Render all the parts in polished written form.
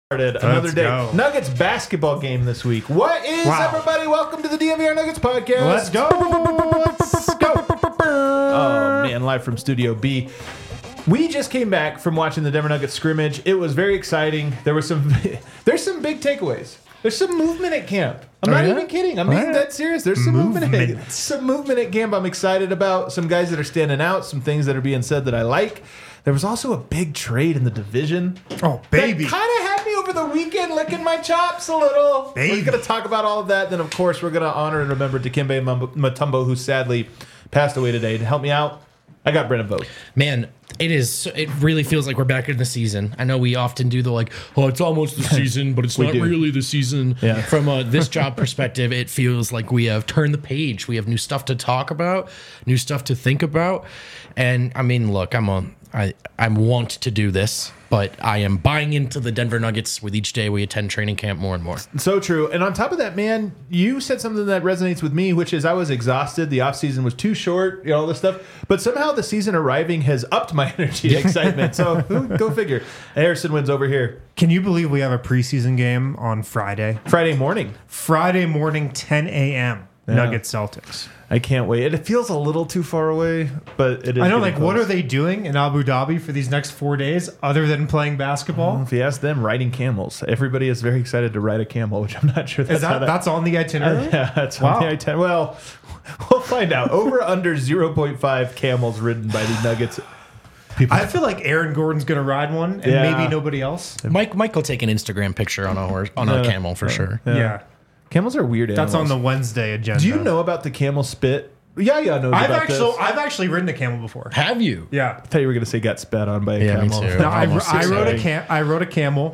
Another day. Go. Nuggets basketball game this week. What is everybody? Welcome to the DNVR Nuggets podcast. Let's go. Let's go. Oh man, live from Studio B. We just came back from watching the Denver Nuggets scrimmage. It was very exciting. There's some big takeaways. There's some movement at camp. I'm not even kidding. I'm being dead serious. There's some movement at camp I'm excited about. Some guys that are standing out. Some things that are being said that I like. There was also a big trade in the division. Oh, baby. That kind of had me over the weekend licking my chops a little. Baby. We're going to talk about all of that. Then, of course, we're going to honor and remember Dikembe Mutombo, who sadly passed away today. To help me out, I got Brennan Vogt. Man, it really feels like we're back in the season. I know we often do it's almost the season, but it's not really the season. Yeah. From this job perspective, it feels like we have turned the page. We have new stuff to talk about, new stuff to think about. And I mean, look, I want to do this, but I am buying into the Denver Nuggets with each day we attend training camp more and more. So true. And on top of that, man, you said something that resonates with me, which is I was exhausted. The offseason was too short, all this stuff. But somehow the season arriving has upped my energy and excitement. So go figure. Harrison wins over here. Can you believe we have a preseason game on Friday? Friday morning, 10 a.m. Yeah. Nuggets Celtics. I can't wait. It feels a little too far away, but it is. I know, getting close. what are they doing in Abu Dhabi for these next 4 days other than playing basketball? If you ask them, riding camels. Everybody is very excited to ride a camel, which I'm not sure That's on the itinerary? Yeah, that's on the itinerary. Well, we'll find out. Over under 0.5 camels ridden by the Nuggets. I feel like Aaron Gordon's going to ride one, and maybe nobody else. Mike will take an Instagram picture on a camel for sure. Yeah. Camels are weird animals. That's on the Wednesday agenda. Do you know about the camel spit? Yeah, knows about this. I've actually ridden a camel before. Have you? Yeah. I thought you were going to say got spat on by a camel. Me too. No, I rode a camel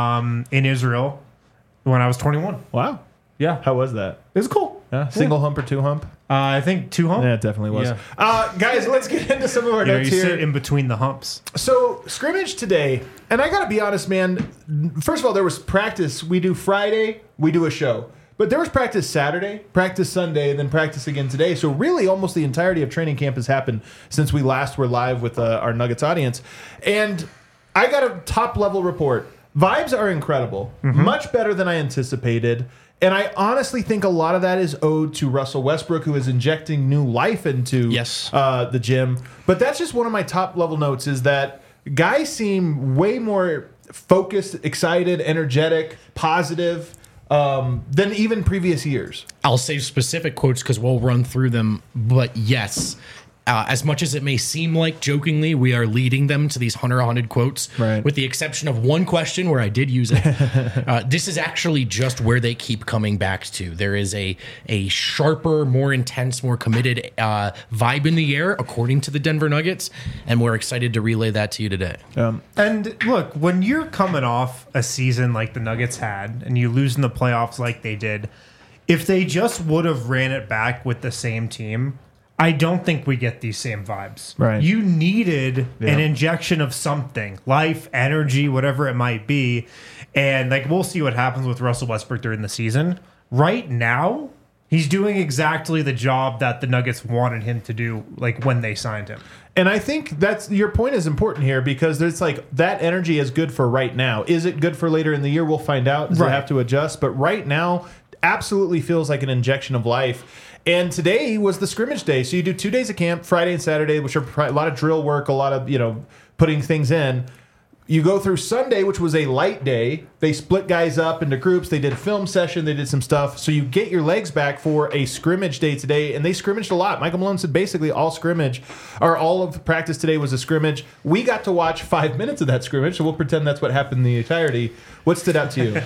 in Israel when I was 21. Wow. Yeah. How was that? It was cool. Single hump or two hump? I think 2 hump. Yeah, it definitely was. Yeah. Guys, let's get into some of our notes you here. sit in between the humps. So, scrimmage today, and I got to be honest, man. First of all, there was practice. We do Friday, we do a show. But there was practice Saturday, practice Sunday, and then practice again today. So really almost the entirety of training camp has happened since we last were live with our Nuggets audience. And I got a top-level report. Vibes are incredible. Much better than I anticipated. And I honestly think a lot of that is owed to Russell Westbrook, who is injecting new life into the gym. But that's just one of my top-level notes is that guys seem way more focused, excited, energetic, positive than even previous years. I'll save specific quotes because we'll run through them. But yes, as much as it may seem like jokingly, we are leading them to these 100 quotes, right, with the exception of one question where I did use it. This is actually just where they keep coming back to. There is a sharper, more intense, more committed vibe in the air, according to the Denver Nuggets, and we're excited to relay that to you today. And look, when you're coming off a season like the Nuggets had, and you lose in the playoffs like they did, if they just would have ran it back with the same team, I don't think we get these same vibes. Right. You needed an injection of something, life, energy, whatever it might be. And we'll see what happens with Russell Westbrook during the season. Right now, he's doing exactly the job that the Nuggets wanted him to do, when they signed him. And I think that's your point is important here because there's that energy is good for right now. Is it good for later in the year? We'll find out. Does it have to adjust? But right now, absolutely feels like an injection of life. And today was the scrimmage day. So you do 2 days of camp, Friday and Saturday, which are a lot of drill work, a lot of, putting things in. You go through Sunday, which was a light day. They split guys up into groups. They did a film session. They did some stuff. So you get your legs back for a scrimmage day today. And they scrimmaged a lot. Michael Malone said basically all of practice today was a scrimmage. We got to watch 5 minutes of that scrimmage. So we'll pretend that's what happened in the entirety. What stood out to you?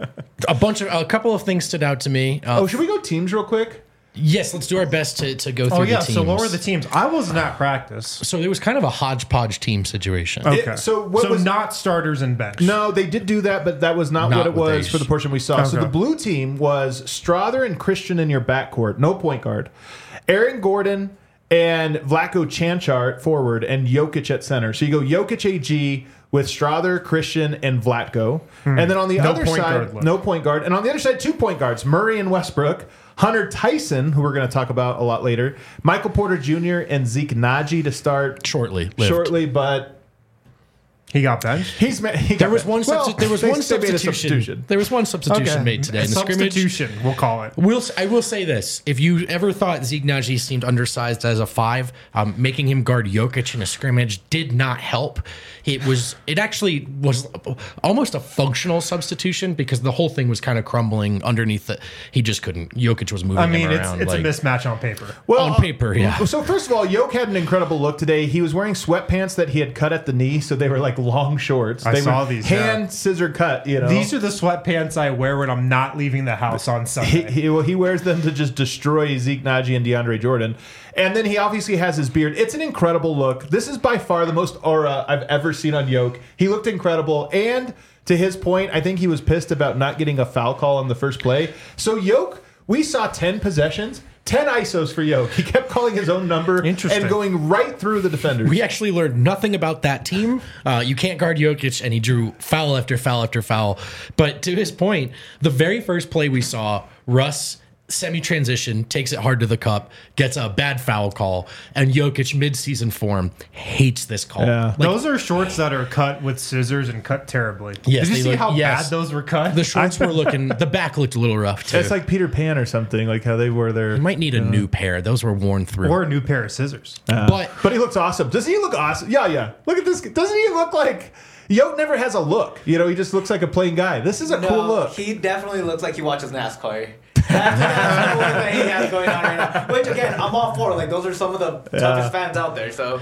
A couple of things stood out to me. Should we go teams real quick? Yes, let's do our best to go through the teams. So what were the teams? I wasn't at practice. So it was kind of a hodgepodge team situation. Okay. So not starters and bench. No, they did do that, but that was not what it was for the portion we saw. Okay. So the blue team was Strawther and Christian in your backcourt. No point guard. Aaron Gordon and Vlatko Cancar forward and Jokic at center. So you go Jokic AG with Strawther, Christian, and Vlatko. And then on the other side, no point guard. And on the other side, 2 point guards, Murray and Westbrook. Hunter Tyson, who we're going to talk about a lot later. Michael Porter Jr. and Zeke Naji to start shortly, but He got benched. There was one substitution. There was one substitution made today in the scrimmage. Substitution, we'll call it. I will say this: if you ever thought Zeke Nnaji seemed undersized as a 5, making him guard Jokic in a scrimmage did not help. It actually was almost a functional substitution because the whole thing was kind of crumbling underneath. He just couldn't. Jokic was moving him around. It's a mismatch on paper. Well, on paper, yeah. So first of all, Jokic had an incredible look today. He was wearing sweatpants that he had cut at the knee, so they were like long shorts. I saw these hand scissor cut. These are the sweatpants I wear when I'm not leaving the house on Sunday. He wears them to just destroy Zeke Nnaji and DeAndre Jordan. And then he obviously has his beard. It's an incredible look. This is by far the most aura I've ever seen on Jokic. He looked incredible. And to his point, I think he was pissed about not getting a foul call on the first play. So Jokic, we saw 10 possessions. 10 ISOs for Jokic. He kept calling his own number and going right through the defenders. We actually learned nothing about that team. You can't guard Jokic, and he drew foul after foul after foul. But to his point, the very first play we saw, Russ semi-transition, takes it hard to the cup, gets a bad foul call, and Jokic, mid-season form, hates this call. Yeah. Those are shorts that are cut with scissors and cut terribly. Yes, did you see how bad those were cut? The shorts were looking, the back looked a little rough, too. It's like Peter Pan or something, like how they wore their... You might need a new pair. Those were worn through. Or a new pair of scissors. But he looks awesome. Does he look awesome? Yeah. Look at this. Doesn't he look like... Jokic never has a look. He just looks like a plain guy. This is a cool look. He definitely looks like he watches NASCAR. That's the thing he has going on right now. Which, again, I'm all for. Like, those are some of the toughest fans out there. So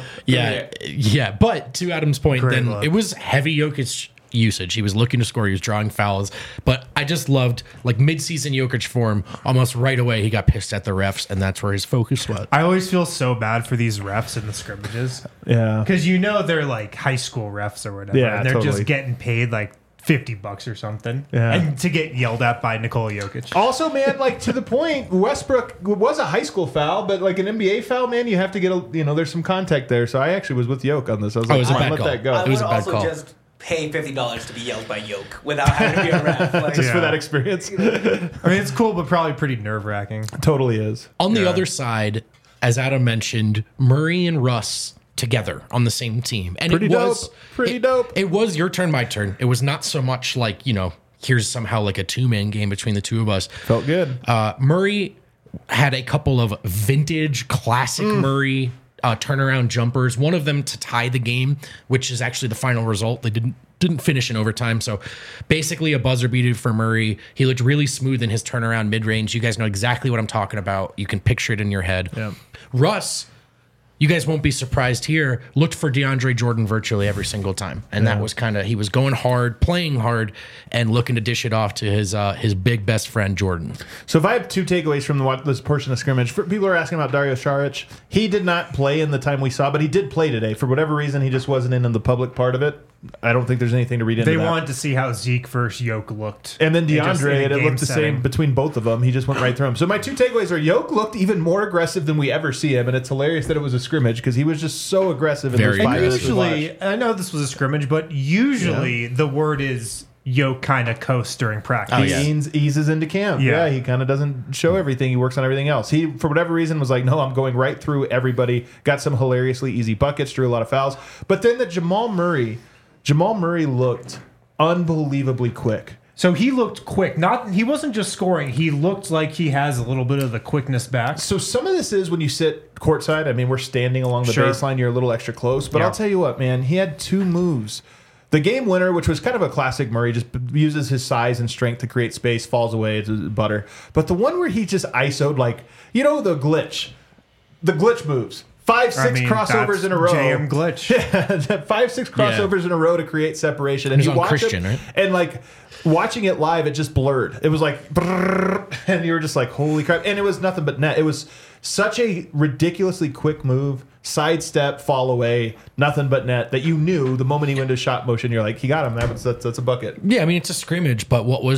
yeah. But to Adam's point, it was heavy Jokic usage. He was looking to score. He was drawing fouls. But I just loved, like, mid-season Jokic form. Almost right away, he got pissed at the refs, and that's where his focus was. I always feel so bad for these refs in the scrimmages. Yeah. Because they're like high school refs or whatever. Yeah, and they're just getting paid like $50 or something. Yeah. And to get yelled at by Nikola Jokic. Also, man, like, to the point, Westbrook was a high school foul, but like an NBA foul, man, you have to get there's some contact there. So I actually was with Jokic on this. I was like, let that go. I would also just pay $50 to be yelled by Jokic without having to be a ref. Just for that experience. I mean, it's cool, but probably pretty nerve-wracking. Totally is. On the other side, as Adam mentioned, Murray and Russ together on the same team. And pretty dope. It was your turn, my turn. It was not so much like, here's somehow like a 2-man game between the two of us. Felt good. Murray had a couple of vintage classic Murray turnaround jumpers. One of them to tie the game, which is actually the final result. They didn't finish in overtime. So basically a buzzer beater for Murray. He looked really smooth in his turnaround mid-range. You guys know exactly what I'm talking about. You can picture it in your head. Yeah. Russ, you guys won't be surprised here, looked for DeAndre Jordan virtually every single time. And that was he was going hard, playing hard, and looking to dish it off to his big best friend, Jordan. So if I have two takeaways from this portion of scrimmage, people are asking about Dario Saric. He did not play in the time we saw, but he did play today. For whatever reason, he just wasn't in the public part of it. I don't think there's anything to read into that. They wanted to see how Zeke versus Jokic looked. And then DeAndre, it looked the same between both of them. He just went right through him. So my two takeaways are Jokic looked even more aggressive than we ever see him, and it's hilarious that it was a scrimmage because he was just so aggressive in those 5 minutes. Usually, I know this was a scrimmage, but usually the word is Jokic kind of coasts during practice. He eases into camp. Yeah, he kind of doesn't show everything. He works on everything else. He, for whatever reason, was like, no, I'm going right through everybody. Got some hilariously easy buckets, drew a lot of fouls. But then Jamal Murray looked unbelievably quick. So he looked quick. He wasn't just scoring. He looked like he has a little bit of the quickness back. So some of this is when you sit courtside. I mean, we're standing along the baseline. You're a little extra close. But I'll tell you what, man. He had 2 moves. The game winner, which was kind of a classic Murray, just uses his size and strength to create space, falls away, it's butter. But the one where he just ISO'd, like, the glitch moves. 5-6 crossovers in a row. JM glitch. 5-6 crossovers in a row to create separation. And you watch Christian, it, right? And like watching it live, it just blurred. It was like, brrr, and you were just like, holy crap. And it was nothing but net. It was such a ridiculously quick move, sidestep, fall away, nothing but net, that you knew the moment he went into shot motion, you're like, he got him. That's a bucket. Yeah, I mean, it's a scrimmage, but what was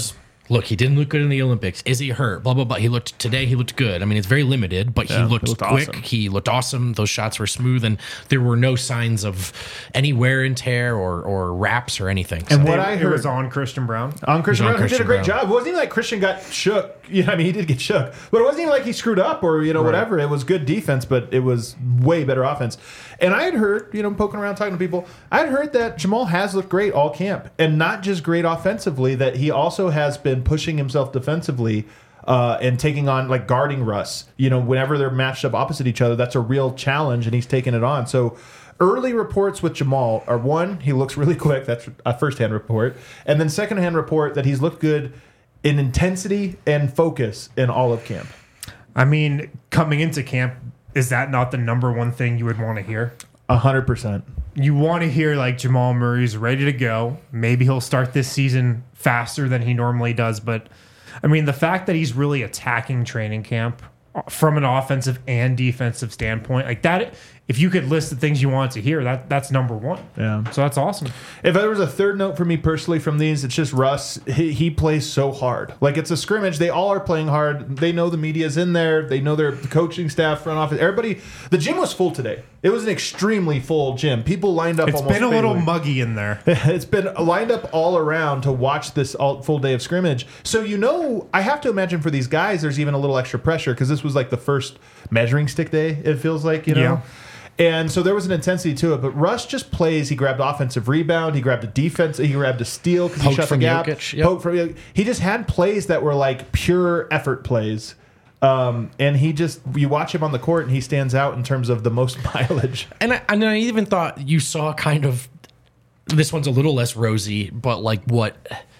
look, he didn't look good in the Olympics. Is he hurt? Blah, blah, blah. He looked good. I mean, it's very limited, but he looked quick. Awesome. He looked awesome. Those shots were smooth, and there were no signs of any wear and tear or wraps or anything. And what I heard was on Christian Brown. On Christian Brown, who did a great job. It wasn't even like Christian got shook. I mean, he did get shook, but it wasn't even like he screwed up or whatever. It was good defense, but it was way better offense. And I had heard, poking around talking to people, I had heard that Jamal has looked great all camp, and not just great offensively. That he also has been pushing himself defensively and taking on, like, guarding Russ. Whenever they're matched up opposite each other, that's a real challenge, and he's taking it on. So early reports with Jamal are, one, he looks really quick. That's a first-hand report. And then second-hand report that he's looked good in intensity and focus in all of camp. I mean, coming into camp, is that not the number one thing you would want to hear? 100%. You want to hear, like, Jamal Murray's ready to go. Maybe he'll start this season faster than he normally does. But, I mean, the fact that he's really attacking training camp from an offensive and defensive standpoint, like that, if you could list the things you want to hear, that's number one. Yeah. So that's awesome. If there was a third note for me personally from these, it's just Russ. He plays so hard. Like, it's a scrimmage. They all are playing hard. They know the media's in there. They know their coaching staff, front office. Everybody. The gym was full today. It was an extremely full gym. People lined up. It's been a little muggy in there. It's been lined up all around to watch this full day of scrimmage. So, I have to imagine for these guys, there's even a little extra pressure because this was like the first measuring stick day, it feels like, Yeah. And so there was an intensity to it, but Russ just plays. He grabbed offensive rebound. He grabbed a defense. He grabbed a steal because he shot the gap. Yep. He just had plays that were like pure effort plays. And you watch him on the court and he stands out in terms of the most mileage. And I even thought you saw kind of, this one's a little less rosy, but like what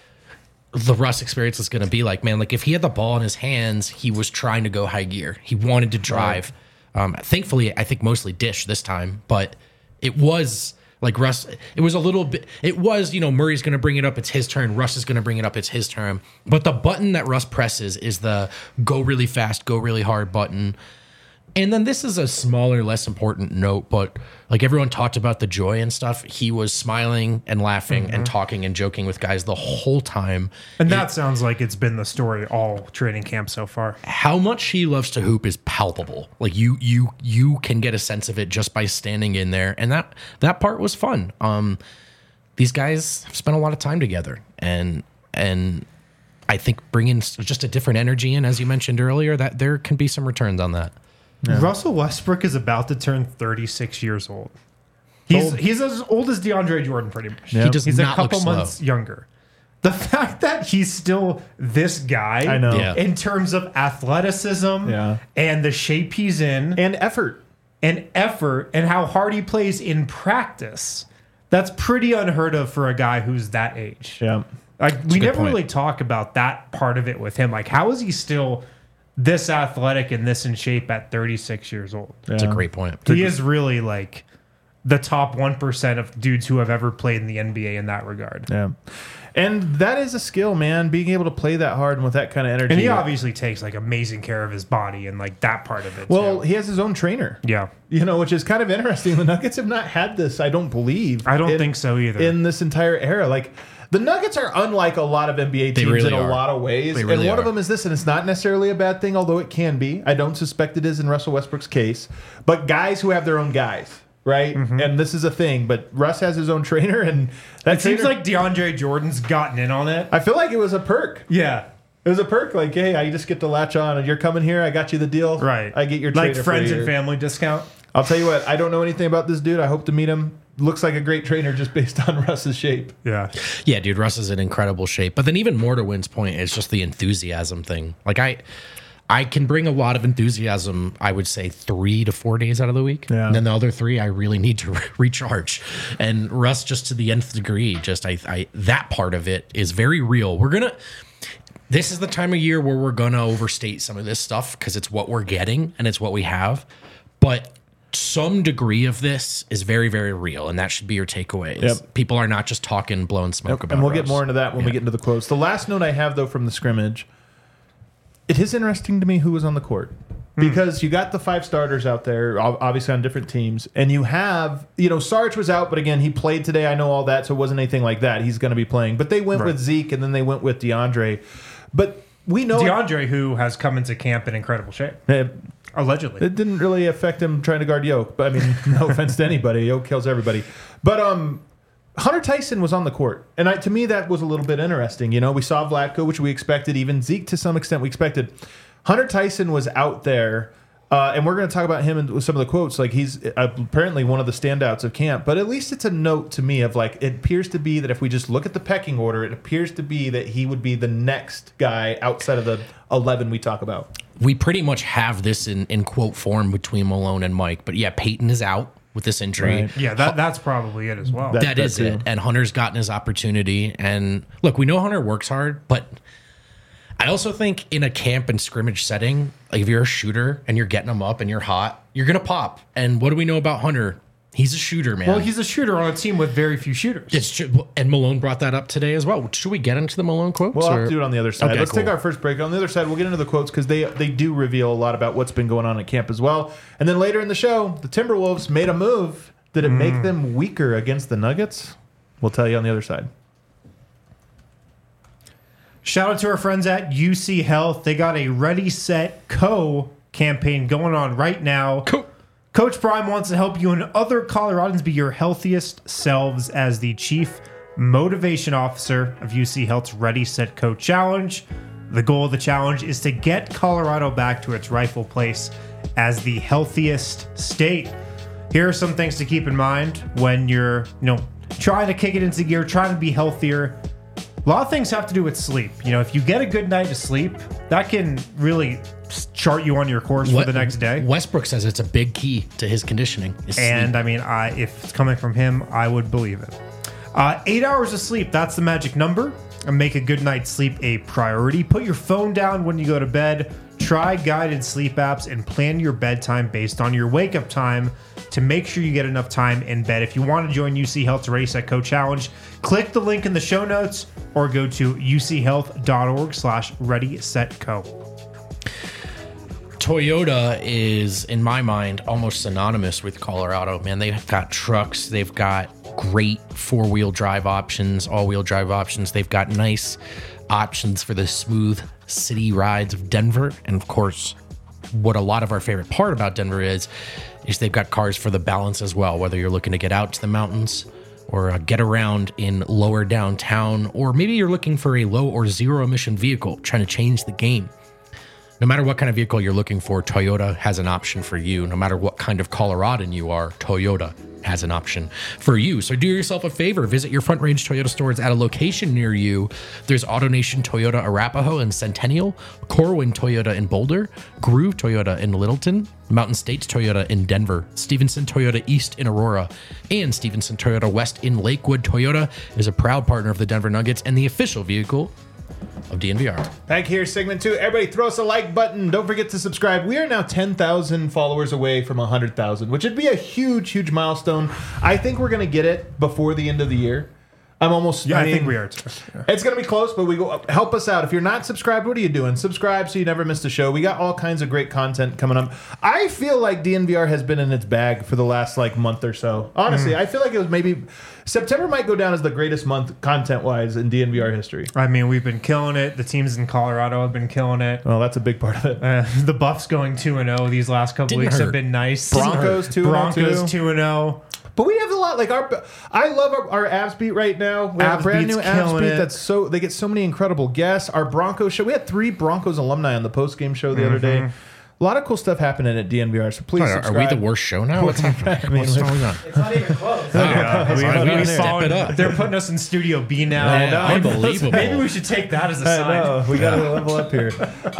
the Russ experience is going to be like, man. Like, if he had the ball in his hands, he was trying to go high gear. He wanted to drive. Right. Thankfully, I think mostly dish this time, but it was like Russ. It was a little bit. It was, Murray's going to bring it up. It's his turn. Russ is going to bring it up. It's his turn. But the button that Russ presses is the go really fast, go really hard button. And then this is a smaller, less important note, but like everyone talked about the joy and stuff. He was smiling and laughing and talking and joking with guys the whole time. And that sounds like it's been the story all training camp so far. How much he loves to hoop is palpable. Like you can get a sense of it just by standing in there. And that part was fun. These guys have spent a lot of time together, and I think bringing just a different energy in, as you mentioned earlier, that there can be some returns on that. Yeah. Russell Westbrook is about to turn 36 years old. He's as old as DeAndre Jordan, pretty much. Yep. He's a couple months younger. The fact that he's still this guy, I know, in terms of athleticism and the shape he's in, and effort, and how hard he plays in practice, that's pretty unheard of for a guy who's that age. Yeah, like we never really talk about that part of it with him. Like, how is he still this athletic and this in shape at 36 years old? That's a great point. He is really like the top 1% of dudes who have ever played in the NBA in that regard. Yeah. And that is a skill, man, being able to play that hard and with that kind of energy. And he obviously takes like amazing care of his body and like that part of it. Well, he has his own trainer. Yeah. Which is kind of interesting. The Nuggets have not had this, I don't believe. I don't think so either. In this entire era. Like, the Nuggets are unlike a lot of NBA teams in a lot of ways. And one of them is this, and it's not necessarily a bad thing, although it can be. I don't suspect it is in Russell Westbrook's case. But guys who have their own guys, right? Mm-hmm. And this is a thing. But Russ has his own trainer, and it seems like DeAndre Jordan's gotten in on it. I feel like it was a perk. Yeah. It was a perk. Like, hey, I just get to latch on, and you're coming here. I got you the deal. Right. I get your trainer like friends and family discount. I'll tell you what. I don't know anything about this dude. I hope to meet him. Looks like a great trainer just based on Russ's shape. Yeah. Yeah, dude, Russ is in incredible shape. But then even more to Wynn's point is just the enthusiasm thing. Like I can bring a lot of enthusiasm, I would say 3 to 4 days out of the week. Yeah. And then the other 3, I really need to recharge. And Russ, just to the nth degree, just that part of it is very real. This is the time of year where we're going to overstate some of this stuff because it's what we're getting and it's what we have. But some degree of this is very, very real, and that should be your takeaway. Yep. People are not just talking, blowing smoke about it. And we'll get more into that when we get into the quotes. The last note I have, though, from the scrimmage, it is interesting to me who was on the court. Because you got the 5 starters out there, obviously on different teams, and you have, Sarge was out, but again, he played today. I know all that, so it wasn't anything like that. He's going to be playing. But they went with Zeke, and then they went with DeAndre. But we know DeAndre, who has come into camp in incredible shape. Allegedly. It didn't really affect him trying to guard Yoke. But I mean, no offense to anybody. Yoke kills everybody. But Hunter Tyson was on the court. And to me, that was a little bit interesting. You know, we saw Vlatko, which we expected. Even Zeke, to some extent, we expected. Hunter Tyson was out there. And we're going to talk about him with some of the quotes. Like, he's apparently one of the standouts of camp. But at least it's a note to me of, like, it appears to be that if we just look at the pecking order, it appears to be that he would be the next guy outside of the 11 we talk about. We pretty much have this in quote form between Malone and Mike. But, yeah, Peyton is out with this injury. Right. Yeah, that's probably it as well. That is it. And Hunter's gotten his opportunity. And, look, we know Hunter works hard, but I also think in a camp and scrimmage setting, like if you're a shooter and you're getting them up and you're hot, you're going to pop. And what do we know about Hunter? He's a shooter, man. Well, he's a shooter on a team with very few shooters. It's true. And Malone brought that up today as well. Should we get into the Malone quotes? We'll have to do it on the other side. Okay, Let's cool. take our first break. On the other side, we'll get into the quotes because they do reveal a lot about what's been going on at camp as well. And then later in the show, the Timberwolves made a move. Did it make them weaker against the Nuggets? We'll tell you on the other side. Shout out to our friends at UC Health. They got a Ready, Set, Co campaign going on right now. Coach Prime wants to help you and other Coloradans be your healthiest selves as the Chief Motivation Officer of UC Health's Ready, Set, Co Challenge. The goal of the challenge is to get Colorado back to its rightful place as the healthiest state. Here are some things to keep in mind when you're, trying to kick it into gear, trying to be healthier. A lot of things have to do with sleep. If you get a good night of sleep, that can really chart you on your course for the next day. Westbrook says it's a big key to his conditioning. And I mean, if it's coming from him, I would believe it. 8 hours of sleep, that's the magic number. And make a good night's sleep a priority. Put your phone down when you go to bed. Try guided sleep apps and plan your bedtime based on your wake-up time to make sure you get enough time in bed. If you want to join UC Health's Ready, Set, Co Challenge, click the link in the show notes or go to uchealth.org/readysetco. Toyota is, in my mind, almost synonymous with Colorado. Man, they've got trucks. They've got great four-wheel drive options, all-wheel drive options. They've got nice options for the smooth city rides of Denver. And, of course, what a lot of our favorite part about Denver is they've got cars for the balance as well, whether you're looking to get out to the mountains or get around in lower downtown, or maybe you're looking for a low or zero emission vehicle, trying to change the game. No matter what kind of vehicle you're looking for, Toyota has an option for you. No matter what kind of Coloradan you are, Toyota has an option for you. So do yourself a favor. Visit your Front Range Toyota stores at a location near you. There's AutoNation Toyota Arapahoe and Centennial, Corwin Toyota in Boulder, Groove Toyota in Littleton, Mountain States Toyota in Denver, Stevenson Toyota East in Aurora, and Stevenson Toyota West in Lakewood. Toyota is a proud partner of the Denver Nuggets and the official vehicle of DNVR. Back here, segment 2. Everybody throw us a like button. Don't forget to subscribe. We are now 10,000 followers away from 100,000, which would be a huge, huge milestone. I think we're going to get it before the end of the year. I think we are too. Yeah. It's going to be close, but help us out. If you're not subscribed, what are you doing? Subscribe so you never miss a show. We got all kinds of great content coming up. I feel like DNVR has been in its bag for the last month or so. Honestly, I feel like it was maybe September might go down as the greatest month content-wise in DNVR history. I mean, we've been killing it. The teams in Colorado have been killing it. Well, that's a big part of it. The Buffs going 2-0 these last couple weeks have been nice. Broncos 2-0. But we have a lot. I love our Avs beat right now. We have a brand new Avs beat they get so many incredible guests. Our Broncos show. We had 3 Broncos alumni on the post-game show the other day. A lot of cool stuff happening at DNVR, so please subscribe. Are we the worst show now? What's happening? What's going on? It's not even close. We step it up. They're putting us in Studio B now. Unbelievable. Maybe we should take that as a sign. We got to level up here.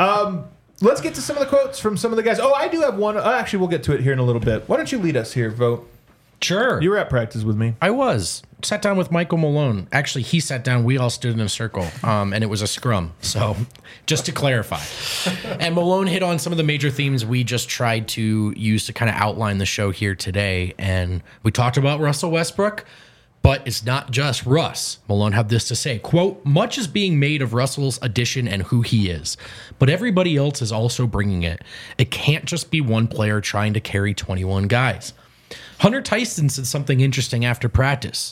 Let's get to some of the quotes from some of the guys. Oh, I do have one. Actually, we'll get to it here in a little bit. Why don't you lead us here, Vote? Sure. You were at practice with me. I was. Sat down with Michael Malone. Actually, he sat down. We all stood in a circle, and it was a scrum. So, just to clarify. And Malone hit on some of the major themes we just tried to use to kind of outline the show here today. And we talked about Russell Westbrook, but it's not just Russ. Malone had this to say, quote, "Much is being made of Russell's addition and who he is, but everybody else is also bringing it. It can't just be one player trying to carry 21 guys." Hunter Tyson said something interesting after practice.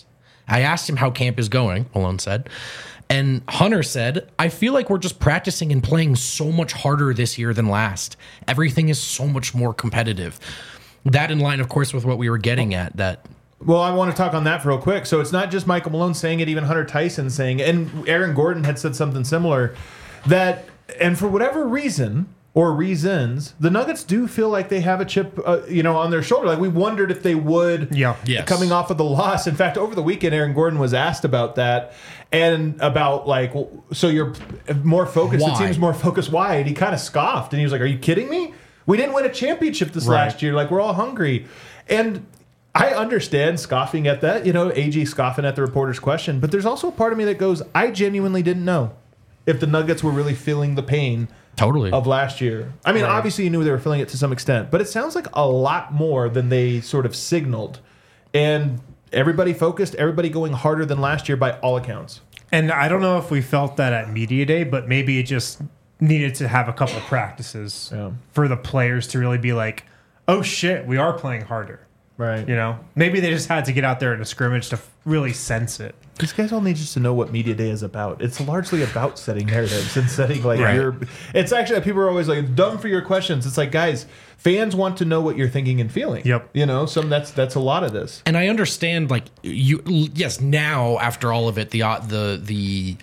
I asked him how camp is going, Malone said. And Hunter said, I feel like we're just practicing and playing so much harder this year than last. Everything is so much more competitive. That in line, of course, with what we were getting at. Well, I want to talk on that real quick. So it's not just Michael Malone saying it, even Hunter Tyson saying it. And Aaron Gordon had said something similar. And for whatever reason or reasons, the Nuggets do feel like they have a chip, on their shoulder. Like we wondered if they would, coming off of the loss. In fact, over the weekend, Aaron Gordon was asked about that and about so you're more focused. Why? The team's more focused. Why? And he kind of scoffed and he was like, "Are you kidding me? We didn't win a championship this last year. Like we're all hungry." And I understand scoffing at that. AG scoffing at the reporter's question, but there's also a part of me that goes, I genuinely didn't know if the Nuggets were really feeling the pain of last year. I mean, obviously you knew they were feeling it to some extent, but it sounds like a lot more than they sort of signaled. And everybody focused, everybody going harder than last year by all accounts. And I don't know if we felt that at Media Day, but maybe it just needed to have a couple practices for the players to really be like, oh shit, we are playing harder. Right. Maybe they just had to get out there in a scrimmage to really sense it. These guys all need just to know what Media Day is about. It's largely about setting narratives and setting it's actually, people are always like, dumb for your questions. It's like, guys, fans want to know what you're thinking and feeling. Yep. That's a lot of this. And I understand, now after all of it, the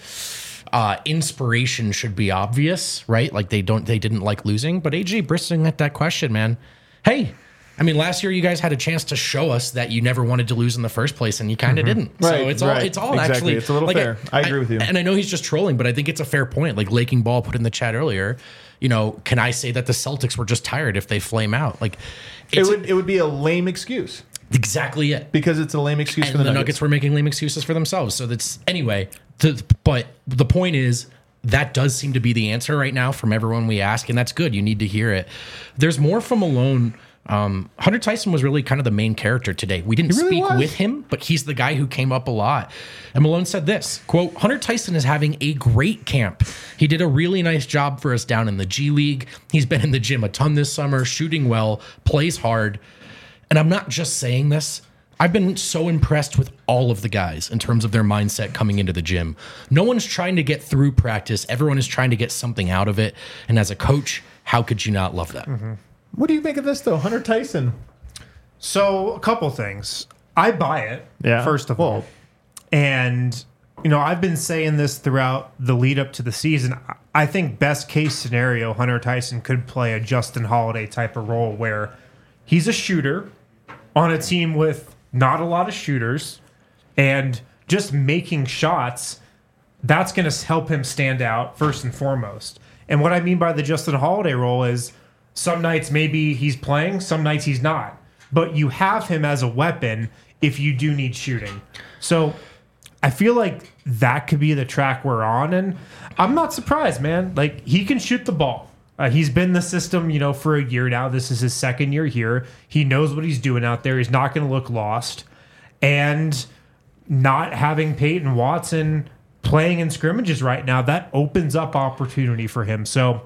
inspiration should be obvious, right? Like they didn't like losing, but AJ Brisson at that question, man. Hey, I mean, last year you guys had a chance to show us that you never wanted to lose in the first place, and you kind of didn't. Right, so it's all exactly. actually, it's a little fair. I agree with you. And I know he's just trolling, but I think it's a fair point. Like Laking Ball put in the chat earlier, can I say that the Celtics were just tired if they flame out? Like it would be a lame excuse. Exactly it. Because it's a lame excuse for the Nuggets were making lame excuses for themselves. So that's anyway. But the point is, that does seem to be the answer right now from everyone we ask, and that's good. You need to hear it. There's more from Malone. Hunter Tyson was really kind of the main character today. We didn't speak with him, but he's the guy who came up a lot. And Malone said this, quote, Hunter Tyson is having a great camp. He did a really nice job for us down in the G League. He's been in the gym a ton this summer, shooting well, plays hard. And I'm not just saying this. I've been so impressed with all of the guys in terms of their mindset coming into the gym. No one's trying to get through practice. Everyone is trying to get something out of it. And as a coach, how could you not love that? Mm-hmm. What do you make of this, though? Hunter Tyson. So, a couple things. I buy it, first of all. And, I've been saying this throughout the lead up to the season. I think best case scenario, Hunter Tyson could play a Justin Holiday type of role where he's a shooter on a team with not a lot of shooters and just making shots. That's going to help him stand out first and foremost. And what I mean by the Justin Holiday role is some nights maybe he's playing, some nights he's not. But you have him as a weapon if you do need shooting. So I feel like that could be the track we're on. And I'm not surprised, man. Like, he can shoot the ball. He's been in the system, for a year now. This is his second year here. He knows what he's doing out there. He's not going to look lost. And not having Peyton Watson playing in scrimmages right now, that opens up opportunity for him. So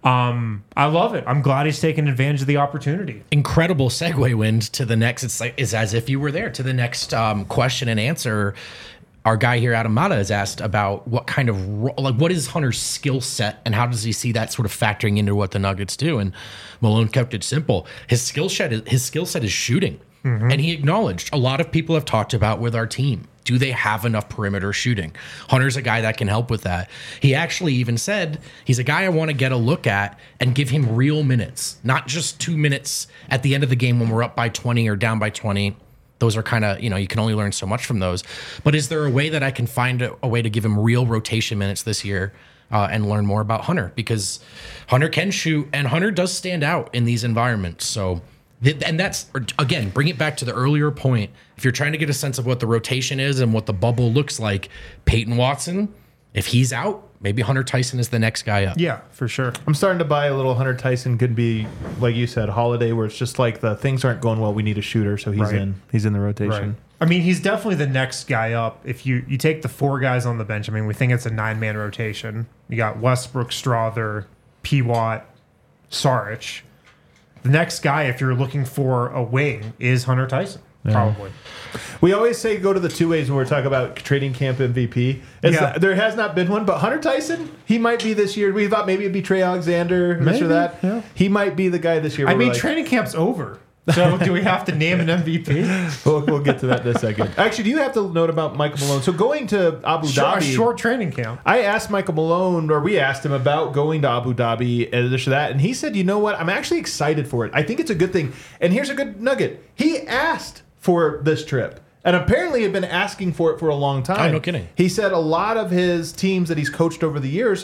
I love it. I'm glad he's taking advantage of the opportunity. Incredible segue, Wind, to the next. It's as if you were there. To the next question and answer. Our guy here, Adam Mata, is asked about what kind of what is Hunter's skill set and how does he see that sort of factoring into what the Nuggets do? And Malone kept it simple. His skill set is shooting, and he acknowledged a lot of people have talked about with our team. Do they have enough perimeter shooting? Hunter's a guy that can help with that. He actually even said he's a guy I want to get a look at and give him real minutes, not just 2 minutes at the end of the game when we're up by 20 or down by 20. Those are kind of, you can only learn so much from those. But is there a way that I can find a way to give him real rotation minutes this year and learn more about Hunter? Because Hunter can shoot, and Hunter does stand out in these environments. So, and that's, again, bring it back to the earlier point. If you're trying to get a sense of what the rotation is and what the bubble looks like, Peyton Watson, if he's out, maybe Hunter Tyson is the next guy up. Yeah, for sure. I'm starting to buy a little Hunter Tyson could be, like you said, Holiday, where it's just like the things aren't going well. We need a shooter, so he's in. He's in the rotation. Right. I mean, he's definitely the next guy up. If you take the 4 guys on the bench, I mean, we think it's a 9-man rotation. You got Westbrook, Strother, P. Watt, Saric. The next guy, if you're looking for a wing, is Hunter Tyson. Probably. We always say go to the two ways when we're talking about training camp MVP. There has not been one, but Hunter Tyson, he might be this year. We thought maybe it'd be Trey Alexander, this or that. Yeah. He might be the guy this year. I mean, training camp's over. So do we have to name an MVP? We'll get to that in a second. Actually, do you have to note about Michael Malone? So going to Abu Dhabi. A short training camp. I asked Michael Malone, or we asked him about going to Abu Dhabi and this or that, and he said, you know what? I'm actually excited for it. I think it's a good thing. And here's a good nugget. He asked for this trip. And apparently had been asking for it for a long time. Oh, no kidding. He said a lot of his teams that he's coached over the years,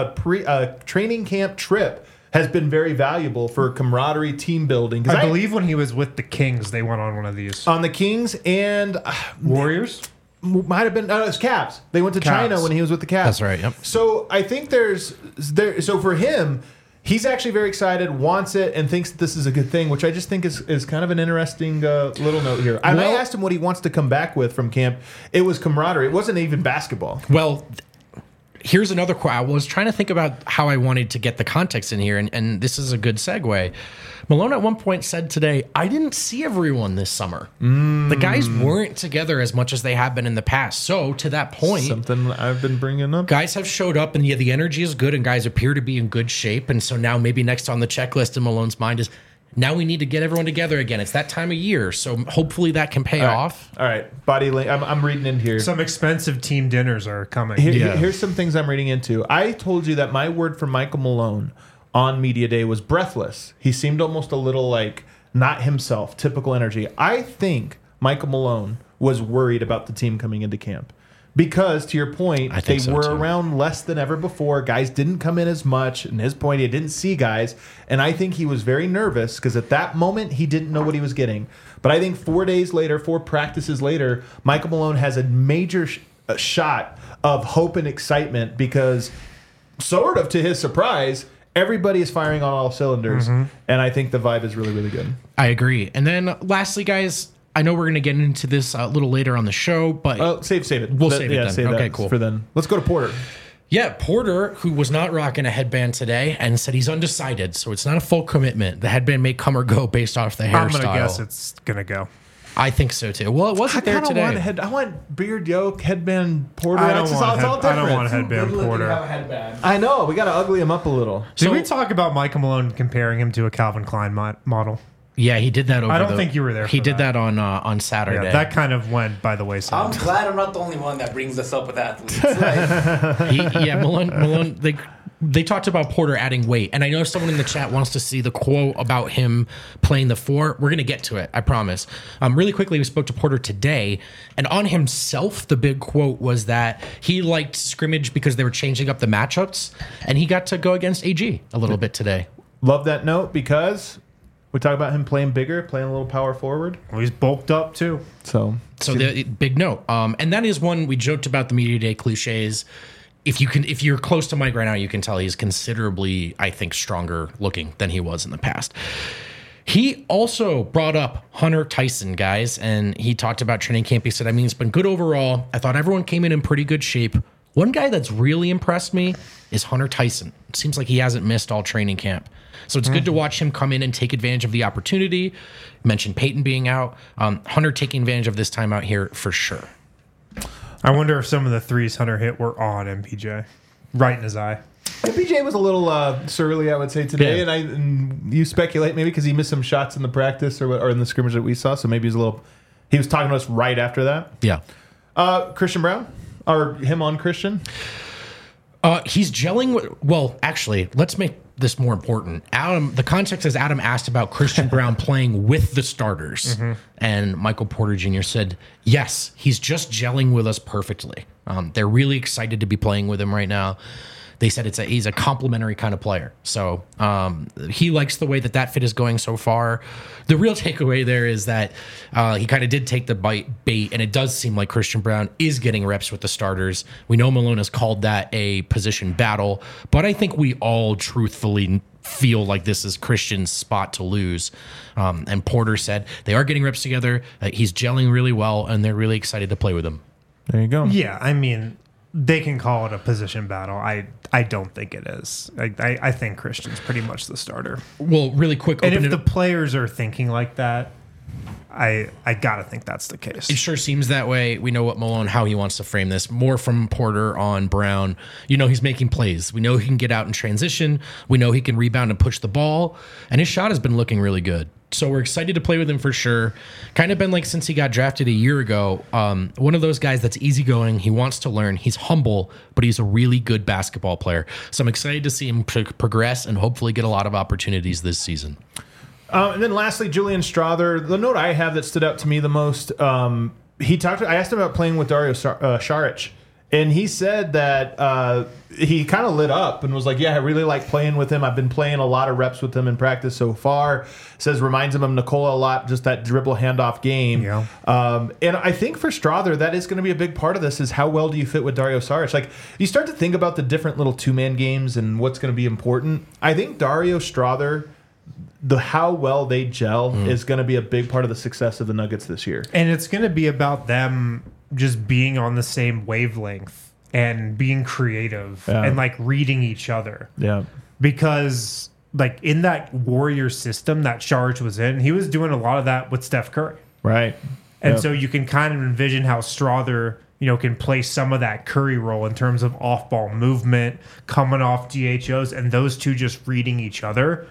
a training camp trip has been very valuable for camaraderie, team building. I believe when he was with the Kings, they went on one of these. On the Kings and... Warriors? Might have been... No, it was Cavs. They went to China when he was with the Cavs. That's right, yep. So I think so for him... He's actually very excited, wants it, and thinks that this is a good thing, which I just think is kind of an interesting little note here. I asked him what he wants to come back with from camp. It was camaraderie. It wasn't even basketball. Well, here's another quote. I was trying to think about how I wanted to get the context in here, and this is a good segue. Malone at one point said today, I didn't see everyone this summer. The guys weren't together as much as they have been in the past. So to that point, something I've been bringing up. Guys have showed up, and the energy is good, and guys appear to be in good shape. And so now maybe next on the checklist in Malone's mind is, now we need to get everyone together again. It's that time of year. So hopefully that can pay off. All right. Body link. I'm reading in here. Some expensive team dinners are coming. Here's some things I'm reading into. I told you that my word for Michael Malone on media day was breathless. He seemed almost a little like not himself, typical energy. I think Michael Malone was worried about the team coming into camp because, to your point, they were around less than ever before. Guys didn't come in as much. And his point, he didn't see guys. And I think he was very nervous because at that moment, he didn't know what he was getting. But I think 4 days later, 4 practices later, Michael Malone has a major shot of hope and excitement because, sort of to his surprise, everybody is firing on all cylinders, and I think the vibe is really, really good. I agree. And then lastly, guys, I know we're going to get into this a little later on the show, but... save it. We'll save it then. Save okay, that cool. For then. Let's go to Porter. Yeah, Porter, who was not rocking a headband today and said he's undecided, so it's not a full commitment. The headband may come or go based off the hairstyle. I'm going to guess it's going to go. I think so too. Well, it wasn't there today. I want beard yoke, headband Porter. I don't want a headband Porter. I know. We got to ugly him up a little. Did we talk about Michael Malone comparing him to a Calvin Klein model? Yeah, he did that over I don't think you were there. He did that on Saturday. Yeah, that kind of went by the wayside. I'm glad I'm not the only one that brings this up with athletes. Malone, they talked about Porter adding weight, and I know someone in the chat wants to see the quote about him playing the 4. We're going to get to it, I promise. Really quickly, we spoke to Porter today, and on himself, the big quote was that he liked scrimmage because they were changing up the matchups, and he got to go against AG a little bit today. Love that note because we talk about him playing bigger, playing a little power forward. Well, he's bulked up too. So the big note, and that is one we joked about the media day cliches. If you're close to Mike right now, you can tell he's considerably, I think, stronger looking than he was in the past. He also brought up Hunter Tyson, guys, and he talked about training camp. He said, I mean, it's been good overall. I thought everyone came in pretty good shape. One guy that's really impressed me is Hunter Tyson. It seems like he hasn't missed all training camp. So it's good to watch him come in and take advantage of the opportunity. You mentioned Peyton being out. Hunter taking advantage of this time out here for sure. I wonder if some of the threes Hunter hit were on MPJ, right in his eye. MPJ was a little surly, I would say, today, and you speculate maybe because he missed some shots in the practice or in the scrimmage that we saw, so maybe he was talking to us right after that. Yeah. Christian Braun, or him on Christian? He's gelling. Well, actually, let's make this more important. The context is Adam asked about Christian Braun playing with the starters, and Michael Porter Jr. said, yes, he's just gelling with us perfectly. They're really excited to be playing with him right now. They said he's a complimentary kind of player. So he likes the way that fit is going so far. The real takeaway there is that he kind of did take the bait, and it does seem like Christian Braun is getting reps with the starters. We know Malone has called that a position battle, but I think we all truthfully feel like this is Christian's spot to lose. And Porter said they are getting reps together. He's gelling really well, and they're really excited to play with him. There you go. Yeah, I mean, they can call it a position battle. I don't think it is. I think Christian's pretty much the starter. Well, really quick. And if the players are thinking like that, I gotta think that's the case. It sure seems that way. We know what Malone, how he wants to frame this. More from Porter on Brown. He's making plays. We know he can get out in transition. We know he can rebound and push the ball. And his shot has been looking really good. So we're excited to play with him for sure. Kind of been like since he got drafted a year ago. One of those guys that's easygoing. He wants to learn. He's humble, but he's a really good basketball player. So I'm excited to see him progress and hopefully get a lot of opportunities this season. And then lastly, Julian Strawther. The note I have that stood out to me the most, I asked him about playing with Dario Saric, and he said that he kind of lit up and was like, yeah, I really like playing with him. I've been playing a lot of reps with him in practice so far. Says reminds him of Nikola a lot, just that dribble handoff game. Yeah. And I think for Strawther, that is going to be a big part of this is how well do you fit with Dario Saric? Like, you start to think about the different little two-man games and what's going to be important. I think Dario Strawther, how well they gel is going to be a big part of the success of the Nuggets this year. And it's going to be about them just being on the same wavelength and being creative and like reading each other. Yeah. Because like in that Warrior system that Saric was in, he was doing a lot of that with Steph Curry. Right. And so you can kind of envision how Strawther, can play some of that Curry role in terms of off-ball movement, coming off DHOs, and those two just reading each other.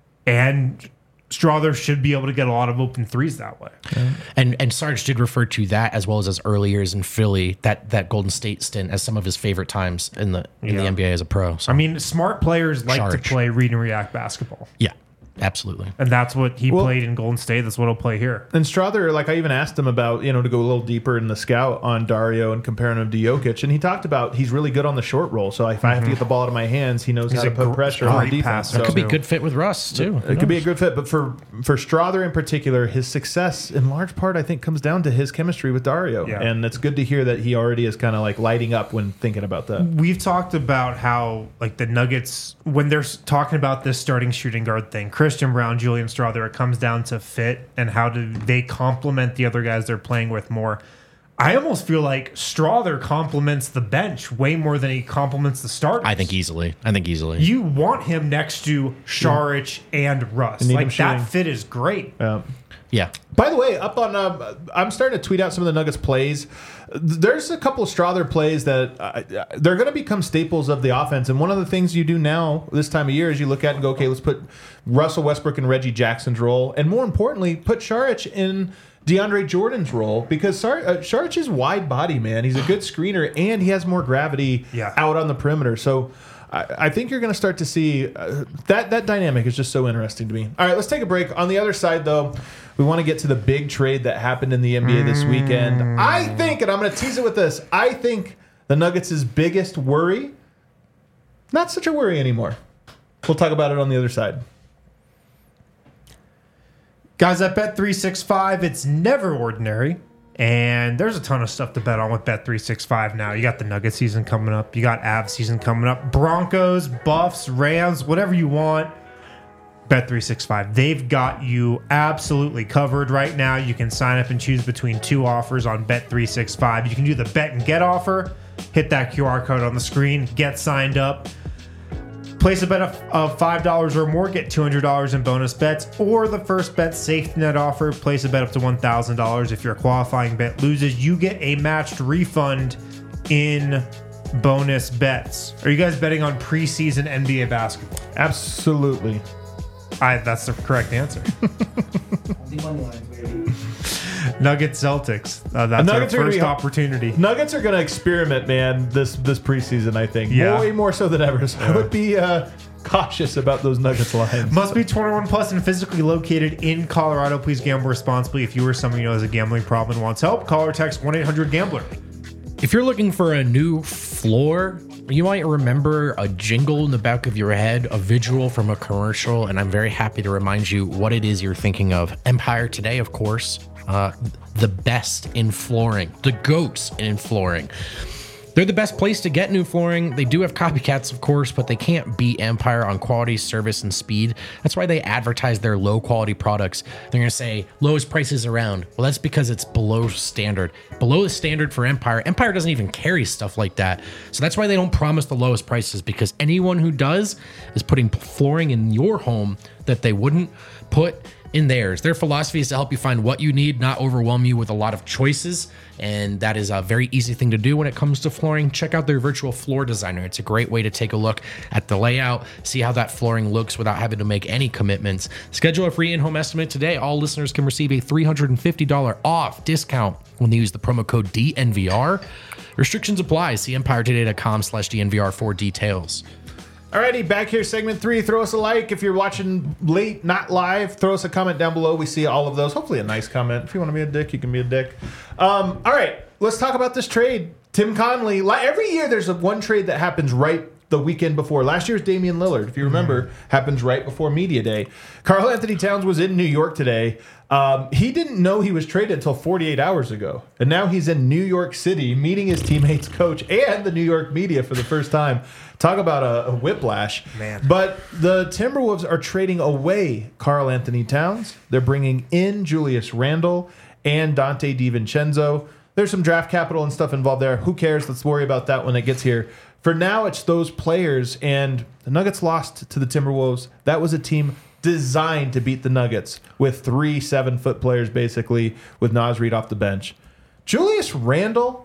And Strawther should be able to get a lot of open threes that way. Yeah. And Sarge did refer to that as well as his early years in Philly, that Golden State stint as some of his favorite times in the NBA as a pro. So. I mean, smart players like to play read and react basketball. Yeah. Absolutely. And that's what he played in Golden State. That's what he'll play here. And Strawther, like I even asked him about, to go a little deeper in the scout on Dario and comparing him to Jokic. And he talked about he's really good on the short roll. So if I have to get the ball out of my hands, he knows how to put pressure on defense. That could be a good fit with Russ, too. It could be a good fit. But for Strawther in particular, his success in large part, I think, comes down to his chemistry with Dario. Yeah. And it's good to hear that he already is kind of like lighting up when thinking about that. We've talked about how like the Nuggets, when they're talking about this starting shooting guard thing, Christian Brown, Julian Strawther, it comes down to fit and how do they complement the other guys they're playing with more. I almost feel like Strawther complements the bench way more than he complements the starters. I think easily. You want him next to Saric and Russ. Like that fit is great. Yeah. By the way, up on I'm starting to tweet out some of the Nuggets plays. There's a couple of Strawther plays that they're going to become staples of the offense. And one of the things you do now this time of year is you look at and go, okay, let's put Russell Westbrook in Reggie Jackson's role, and more importantly, put Saric in DeAndre Jordan's role, because Saric is wide body, man. He's a good screener, and he has more gravity out on the perimeter. So I think you're going to start to see that dynamic is just so interesting to me. All right, let's take a break. On the other side, though, we want to get to the big trade that happened in the NBA this weekend. I think, and I'm going to tease it with this, I think the Nuggets' biggest worry, not such a worry anymore. We'll talk about it on the other side. Guys, at Bet365, it's never ordinary. And there's a ton of stuff to bet on with Bet365 now. You got the Nugget season coming up. You got Avs season coming up. Broncos, Buffs, Rams, whatever you want. Bet365. They've got you absolutely covered right now. You can sign up and choose between two offers on Bet365. You can do the bet and get offer. Hit that QR code on the screen. Get signed up. Place a bet of $5 or more, get $200 in bonus bets, or the first bet safety net offer. Place a bet up to $1,000. If your qualifying bet loses, you get a matched refund in bonus bets. Are you guys betting on preseason NBA basketball? Absolutely. That's the correct answer. Nuggets Celtics. That's our first opportunity. Nuggets are going to experiment, man, this preseason, I think. Way more so than ever. So I would be cautious about those Nuggets lines. Must be 21 plus and physically located in Colorado. Please gamble responsibly. If you or someone you know has a gambling problem and wants help, call or text 1-800-GAMBLER. If you're looking for a new floor, you might remember a jingle in the back of your head, a visual from a commercial, and I'm very happy to remind you what it is you're thinking of. Empire Today, of course. The best in flooring, the GOATs in flooring. They're the best place to get new flooring. They do have copycats, of course, but they can't beat Empire on quality, service, and speed. That's why they advertise their low quality products. They're going to say lowest prices around. Well, that's because it's below standard. Below the standard for Empire. Empire doesn't even carry stuff like that. So that's why they don't promise the lowest prices, because anyone who does is putting flooring in your home that they wouldn't put in theirs. Their philosophy is to help you find what you need, not overwhelm you with a lot of choices. And that is a very easy thing to do when it comes to flooring. Check out their virtual floor designer. It's a great way to take a look at the layout, see how that flooring looks without having to make any commitments. Schedule a free in-home estimate today. All listeners can receive a $350 off discount when they use the promo code DNVR. Restrictions apply. See EmpireToday.com/DNVR for details. Alrighty, back here, segment 3. Throw us a like. If you're watching late, not live, throw us a comment down below. We see all of those. Hopefully a nice comment. If you want to be a dick, you can be a dick. All right, let's talk about this trade. Tim Connelly. Every year there's one trade that happens right the weekend before. Last year's Damian Lillard, if you remember, happens right before Media Day. Karl Anthony Towns was in New York today. He didn't know he was traded until 48 hours ago. And now he's in New York City meeting his teammates, coach, and the New York media for the first time. Talk about a whiplash. Man. But the Timberwolves are trading away Karl Anthony Towns. They're bringing in Julius Randle and Dante DiVincenzo. There's some draft capital and stuff involved there. Who cares? Let's worry about that when it gets here. For now, it's those players, and the Nuggets lost to the Timberwolves. That was a team designed to beat the Nuggets with 3 7-foot players, basically, with Naz Reid off the bench. Julius Randle,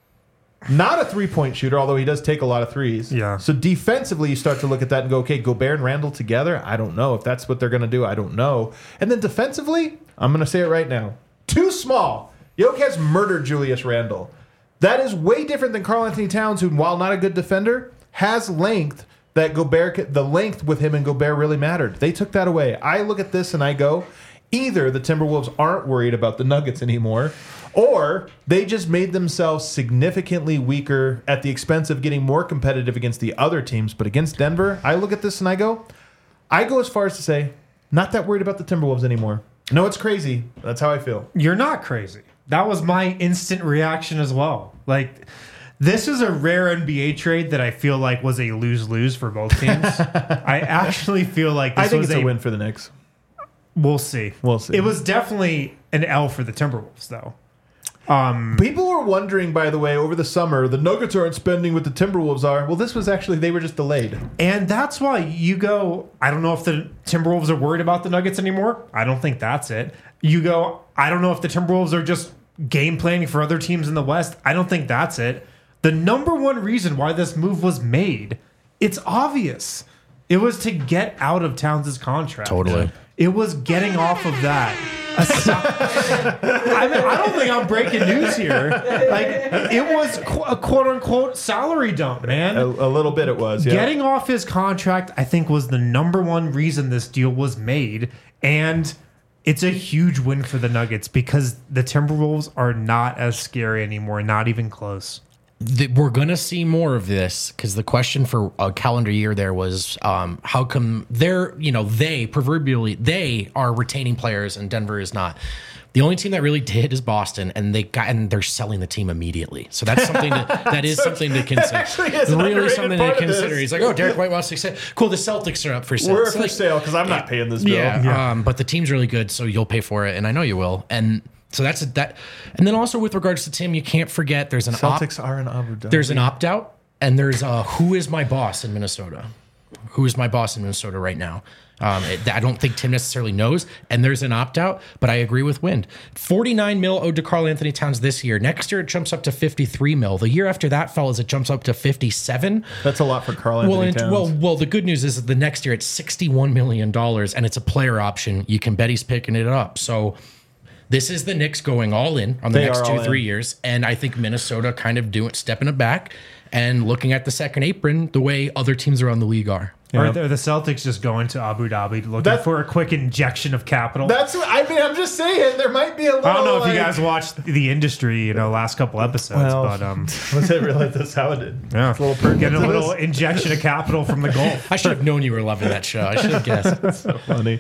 not a three-point shooter, although he does take a lot of threes. Yeah. So defensively, you start to look at that and go, okay, Gobert and Randle together? I don't know. If that's what they're going to do, I don't know. And then defensively, I'm going to say it right now. Too small. Jokic has murdered Julius Randle. That is way different than Karl Anthony Towns, who, while not a good defender, has length that Gobert, the length with him and Gobert really mattered. They took that away. I look at this and I go, either the Timberwolves aren't worried about the Nuggets anymore, or they just made themselves significantly weaker at the expense of getting more competitive against the other teams. But against Denver, I look at this and I go as far as to say, not that worried about the Timberwolves anymore. No, it's crazy. That's how I feel. You're not crazy. That was my instant reaction as well. Like, this is a rare NBA trade that I feel like was a lose-lose for both teams. I actually feel like this I think was it's a win for the Knicks. We'll see. We'll see. It was definitely an L for the Timberwolves, though. People were wondering, by the way, over the summer, the Nuggets aren't spending what the Timberwolves are. Well, this was actually, they were just delayed. And that's why you go, I don't know if the Timberwolves are worried about the Nuggets anymore. I don't think that's it. You go, I don't know if the Timberwolves are just game planning for other teams in the West. I don't think that's it. The number one reason why this move was made, it's obvious. It was to get out of Towns' contract. Totally. It was getting off of that. I mean, I don't think I'm breaking news here. Like, it was a quote-unquote salary dump, man. A little bit it was, yeah. Getting off his contract, I think, was the number one reason this deal was made. And it's a huge win for the Nuggets because the Timberwolves are not as scary anymore, not even close. We're going to see more of this because the question for a calendar year there was how come they are retaining players and Denver is not. The only team that really did is Boston, and they're selling the team immediately. So that's something that is something to consider. Really something to consider. He's like, oh, Derek White wants to say, cool. The Celtics are up for sale. We're for sale because I'm not paying this bill. Yeah. But the team's really good, so you'll pay for it, and I know you will. And so that's that. And then also with regards to Tim, you can't forget there's an Celtics are in Abu Dhabi. There's an opt out, and there's who is my boss in Minnesota? Who is my boss in Minnesota right now? I don't think Tim necessarily knows, and there's an opt-out, but I agree with Wind. $49 million owed to Karl Anthony Towns this year. Next year, it jumps up to $53 million. The year after that, fellas, it jumps up to $57. That's a lot for Karl Anthony Towns. Well, the good news is that the next year, it's $61 million, and it's a player option. You can bet he's picking it up. So this is the Knicks going all in on the next 2-3 years, and I think Minnesota kind of stepping it back and looking at the second apron the way other teams around the league are. Or the Celtics just going to Abu Dhabi looking for a quick injection of capital. I'm just saying there might be a little. I don't know if you guys watched The Industry, last couple episodes, but was it really that's how it did? Yeah, a little getting a little injection of capital from the Gulf. I should have known you were loving that show. I should have guessed. That's so funny.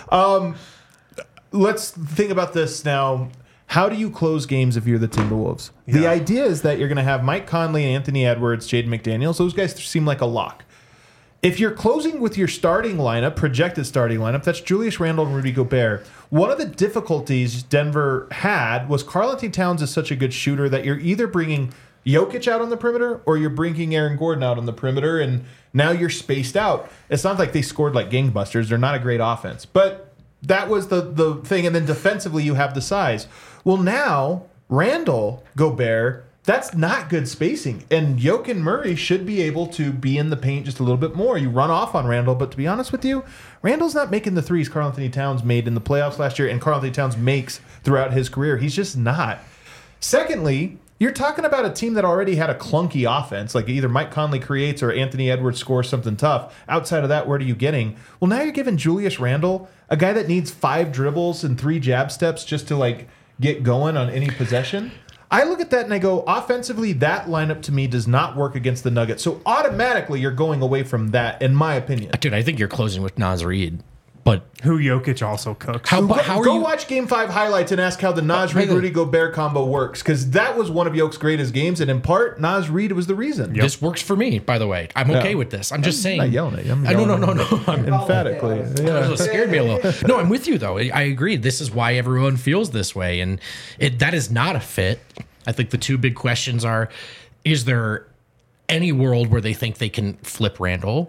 Let's think about this now. How do you close games if you're the Timberwolves? Yeah. The idea is that you're going to have Mike Conley, Anthony Edwards, Jaden McDaniels. Those guys seem like a lock. If you're closing with your starting lineup, projected starting lineup, that's Julius Randle and Rudy Gobert. One of the difficulties Denver had was Karl Anthony Towns is such a good shooter that you're either bringing Jokic out on the perimeter or you're bringing Aaron Gordon out on the perimeter, and now you're spaced out. It's not like they scored like gangbusters. They're not a great offense. But That was the thing. And then defensively, you have the size. Well, now, Randall, Gobert, that's not good spacing. And Jokic and Murray should be able to be in the paint just a little bit more. You run off on Randall, but to be honest with you, Randall's not making the threes Karl-Anthony Towns made in the playoffs last year and Karl-Anthony Towns makes throughout his career. He's just not. Secondly, you're talking about a team that already had a clunky offense, like either Mike Conley creates or Anthony Edwards scores something tough. Outside of that, what are you getting? Well, now you're giving Julius Randle, a guy that needs 5 dribbles and 3 jab steps just to like get going on any possession. I look at that and I go, offensively, that lineup to me does not work against the Nuggets. So automatically, you're going away from that, in my opinion. Dude, I think you're closing with Naz Reid. But who Jokic also cooks. How are go you watch Game 5 highlights and ask how the Naz Reid Rudy Gobert combo works, because that was one of Jokic's greatest games, and in part, Naz Reid was the reason. This works for me, by the way. I'm okay with this. I'm just saying. I'm not yelling at you. No. Emphatically. Yeah. It scared me a little. No, I'm with you, though. I agree. This is why everyone feels this way, and that is not a fit. I think the 2 big questions are, is there any world where they think they can flip Randall?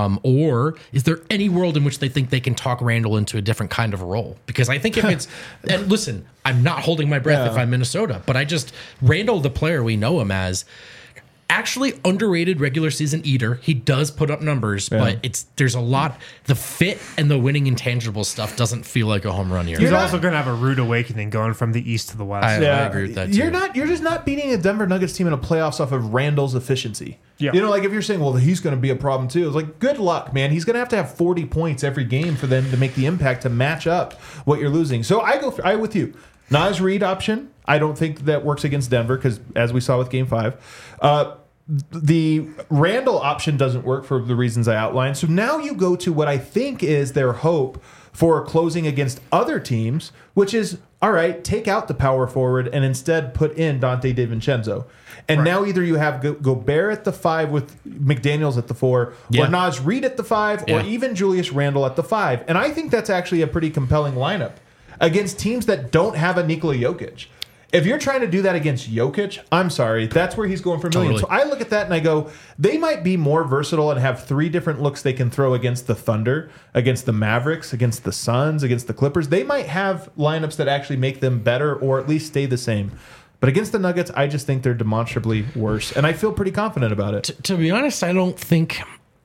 Or is there any world in which they think they can talk Randall into a different kind of role? Because I think if it's, and listen, I'm not holding my breath if I'm Minnesota, but Randall, the player we know him as, actually underrated regular season eater. He does put up numbers, but there's a lot. The fit and the winning intangible stuff doesn't feel like a home run here. He's also going to have a rude awakening going from the east to the west. I agree with that too. You're just not beating a Denver Nuggets team in a playoffs off of Randall's efficiency. Yeah. You know, like if you're saying, well, he's going to be a problem too. It's like, good luck, man. He's going to have 40 points every game for them to make the impact to match up what you're losing. So I with you. Naz Reid option. I don't think that works against Denver because, as we saw with Game 5, the Randall option doesn't work for the reasons I outlined. So now you go to what I think is their hope for closing against other teams, which is, all right, take out the power forward and instead put in Dante DiVincenzo. And now either you have Gobert at the 5 with McDaniels at the 4, or Naz Reid at the 5, or even Julius Randle at the 5. And I think that's actually a pretty compelling lineup against teams that don't have a Nikola Jokic. If you're trying to do that against Jokic, I'm sorry, that's where he's going for millions. Totally. So I look at that and I go, they might be more versatile and have 3 different looks they can throw against the Thunder, against the Mavericks, against the Suns, against the Clippers. They might have lineups that actually make them better or at least stay the same. But against the Nuggets, I just think they're demonstrably worse. And I feel pretty confident about it. To be honest, I don't think,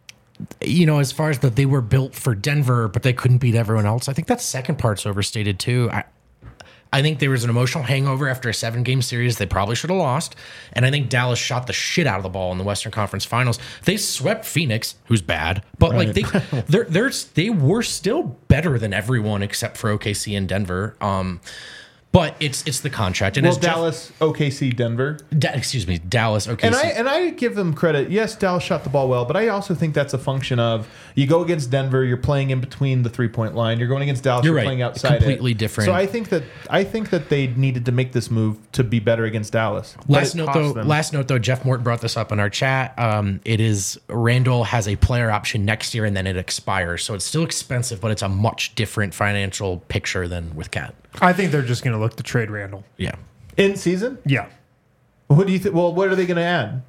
as far as that they were built for Denver, but they couldn't beat everyone else. I think that second part's overstated too. I think there was an emotional hangover after a 7-game series they probably should have lost. And I think Dallas shot the shit out of the ball in the Western Conference Finals. They swept Phoenix, who's bad, but they were still better than everyone except for OKC and Denver. But it's the contract. And Dallas, OKC, Denver. Dallas, OKC. And I give them credit. Yes, Dallas shot the ball well, but I also think that's a function of you go against Denver, you're playing in between the 3-point line. You're going against Dallas, you're playing outside. Completely different. So I think that they needed to make this move to be better against Dallas. Last note though, Jeff Morton brought this up in our chat. It is Randall has a player option next year and then it expires. So it's still expensive, but it's a much different financial picture than with Cat. I think they're just going to look to trade Randall. Yeah. In season? Yeah. What do you think? Well, what are they going to add?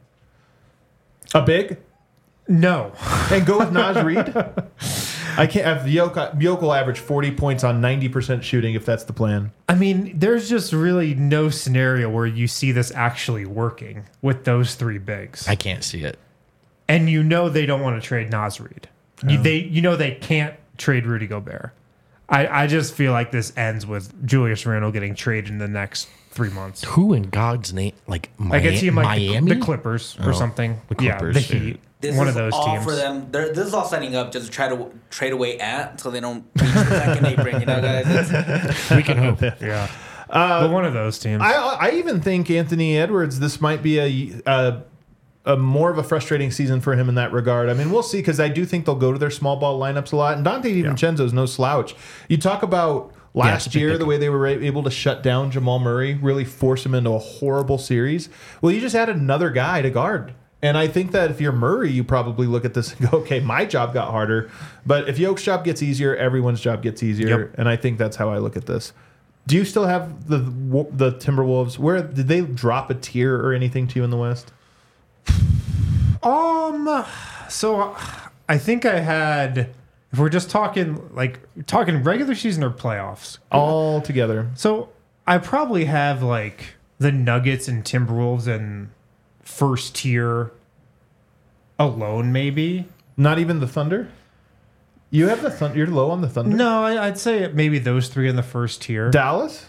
A big? No. And go with Naz Reid? I can't have Jokic will average 40 points on 90% shooting if that's the plan. I mean, there's just really no scenario where you see this actually working with those 3 bigs. I can't see it. And they don't want to trade Naz Reid. They can't trade Rudy Gobert. I just feel like this ends with Julius Randle getting traded in the next 3 months. Who in God's name? Like I can see him like Miami? The Clippers or something. The Clippers. Yeah, the Heat. One of those all teams. For them. This is all setting up just to try to trade away so they don't reach the second apron. Guys. We can hope. Yeah. But one of those teams. I even think Anthony Edwards, this might be a more of a frustrating season for him in that regard. I mean, we'll see, because I do think they'll go to their small ball lineups a lot. And Dante DiVincenzo is no slouch. You talk about last year, the way they were able to shut down Jamal Murray, really force him into a horrible series. Well, you just add another guy to guard. And I think that if you're Murray, you probably look at this and go, okay, my job got harder. But if Jokic's job gets easier, everyone's job gets easier. Yep. And I think that's how I look at this. Do you still have the Timberwolves? Where did they drop a tier or anything to you in the West? So I think I had If we're just talking regular season or playoffs, all together. So I probably have like the Nuggets and Timberwolves and first tier alone, maybe. Not even the Thunder? You have the Thunder. You're low on the Thunder? No, I'd say maybe those three in the first tier. Dallas?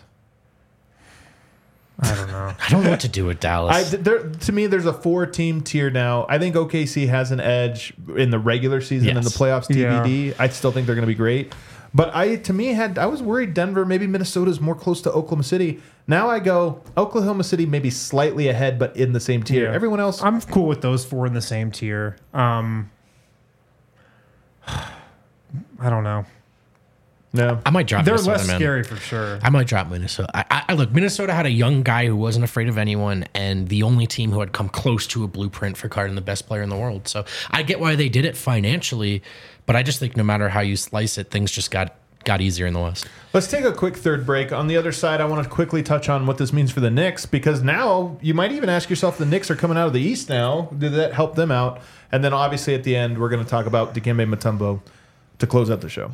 I don't know. I don't know what to do with Dallas. To me, there's a 4-team tier now. I think OKC has an edge in the regular season and the playoffs TBD. Yeah. I still think they're going to be great. But I was worried Denver, maybe Minnesota's more close to Oklahoma City. Now I go Oklahoma City maybe slightly ahead, but in the same tier. Yeah. Everyone else, I'm cool with those 4 in the same tier. I don't know. No, I might drop. They're Minnesota, less scary for sure. I might drop Minnesota. I look. Minnesota had a young guy who wasn't afraid of anyone, and the only team who had come close to a blueprint for carding the best player in the world. So I get why they did it financially, but I just think no matter how you slice it, things just got easier in the West. Let's take a quick third break. On the other side, I want to quickly touch on what this means for the Knicks, because now you might even ask yourself, the Knicks are coming out of the East now. Did that help them out? And then obviously at the end, we're going to talk about Dikembe Mutombo to close out the show.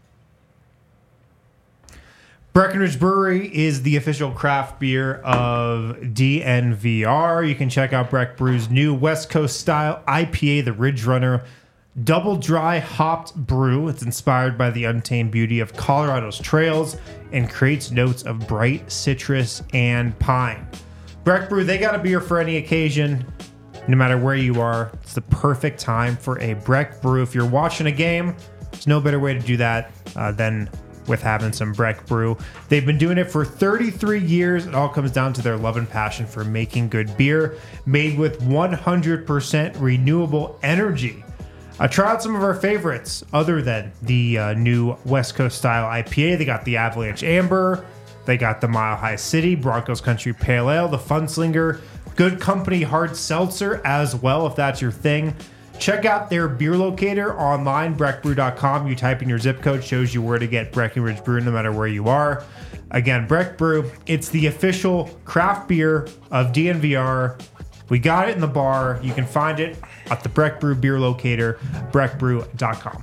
Breckenridge Brewery is the official craft beer of DNVR. You can check out Breck Brew's new West Coast style IPA, the Ridge Runner Double Dry Hopped Brew. It's inspired by the untamed beauty of Colorado's trails and creates notes of bright citrus and pine. Breck Brew, they got a beer for any occasion, no matter where you are. It's the perfect time for a Breck Brew. If you're watching a game, there's no better way to do that than with having some Breck Brew. They've been doing it for 33 years. It all comes down to their love and passion for making good beer made with 100% renewable energy. Try out some of our favorites other than the new West Coast style IPA. They got the Avalanche Amber. They got the Mile High City, Broncos Country Pale Ale, the Funslinger, Good Company Hard Seltzer as well, if that's your thing. Check out their beer locator online, breckbrew.com. You type in your zip code, shows you where to get Breckenridge Brew no matter where you are. Again, Breck Brew, it's the official craft beer of DNVR. We got it in the bar. You can find it at the Breck Brew beer locator, breckbrew.com.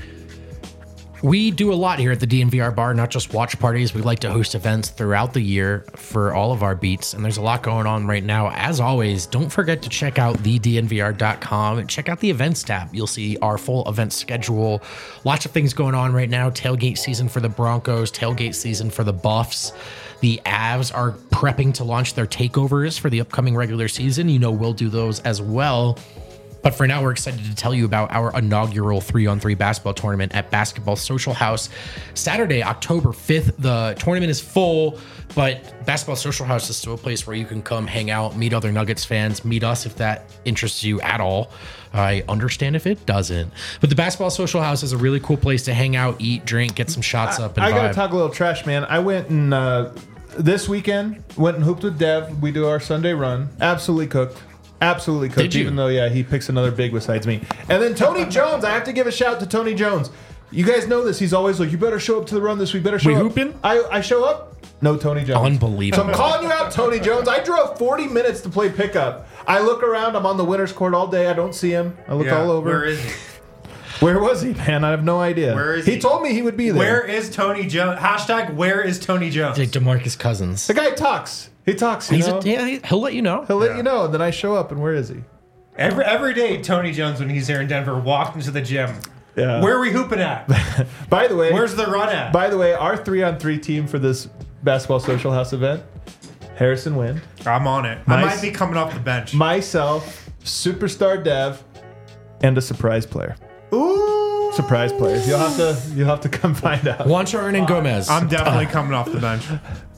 We do a lot here at the DNVR bar, not just watch parties. We like to host events throughout the year for all of our beats, and there's a lot going on right now. As always, don't forget to check out thednvr.com and check out the events tab. You'll see our full event schedule. Lots of things going on right now. Tailgate season for the Broncos, tailgate season for the Buffs. The Avs are prepping to launch their takeovers for the upcoming regular season. You know, we'll do those as well. But for now, we're excited to tell you about our inaugural 3-on-3 basketball tournament at Basketball Social House. Saturday, October 5th, the tournament is full, but Basketball Social House is still a place where you can come hang out, meet other Nuggets fans, meet us if that interests you at all. I understand if it doesn't. But the Basketball Social House is a really cool place to hang out, eat, drink, get some shots up, and I vibe. got to talk a little trash, man. I went and this weekend, went and hooped with Dev. We do our Sunday run. Absolutely cooked. Absolutely cooked. Did you? Even though, yeah, he picks another big besides me. And then Tony Jones. I have to give a shout to Tony Jones. You guys know this. He's always like, you better show up to the run this week. Better show up. We hooping? I show up. No Tony Jones. Unbelievable. So I'm calling you out, Tony Jones. I drove 40 minutes to play pickup. I look around. I'm on the winner's court all day. I don't see him. I look all over. Where is he? Where was he, man? I have no idea. Where is he? He told me he would be there. Where is Tony Jones? Hashtag where is Tony Jones? Like DeMarcus Cousins. The guy talks. He talks, you know? He'll let you know. He'll let you know, and then I show up, and where is he? Every day, Tony Jones, when he's here in Denver, walked into the gym. Yeah. Where are we hooping at? By the way, where's the run at? By the way, our 3-on-3 team for this Basketball Social House event, Harrison Wind. I'm on it. I might be coming off the bench. Myself, Superstar Dev, and a surprise player. Ooh! Surprise player. You'll have to come find out. Juancho Hernan-Gomez. I'm definitely coming off the bench.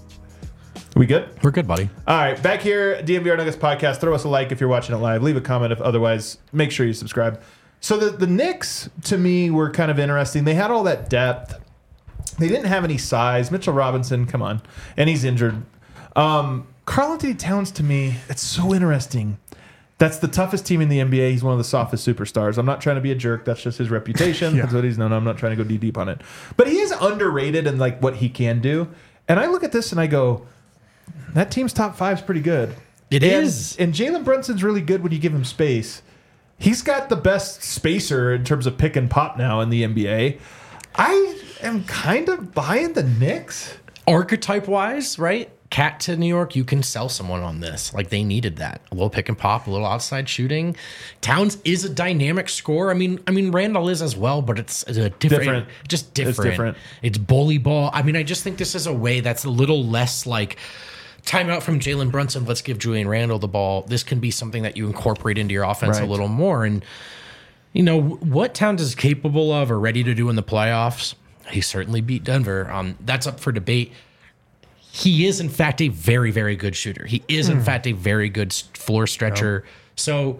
We good? We're good, buddy. All right, back here, DNVR Nuggets podcast. Throw us a like if you're watching it live. Leave a comment if otherwise. Make sure you subscribe. So the Knicks, to me, were kind of interesting. They had all that depth. They didn't have any size. Mitchell Robinson, come on. And he's injured. Karl-Anthony Towns, to me, it's so interesting. That's the toughest team in the NBA. He's one of the softest superstars. I'm not trying to be a jerk. That's just his reputation. Yeah. That's what he's known. I'm not trying to go deep on it. But he is underrated in like what he can do. And I look at this and I go, that team's top 5 is pretty good. It is. And Jalen Brunson's really good when you give him space. He's got the best spacer in terms of pick and pop now in the NBA. I am kind of buying the Knicks. Archetype wise, right? Cat to New York, you can sell someone on this. Like they needed that. A little pick and pop, a little outside shooting. Towns is a dynamic scorer. I mean Randall is as well, but it's a different. Just different. It's different. It's bully ball. I mean, I just think this is a way that's a little less like timeout from Jalen Brunson. Let's give Julian Randle the ball. This can be something that you incorporate into your offense a little more. And you know what Towns is capable of or ready to do in the playoffs. He certainly beat Denver. That's up for debate. He is, in fact, a very, very good shooter. He is, in fact, a very good floor stretcher. Yep. So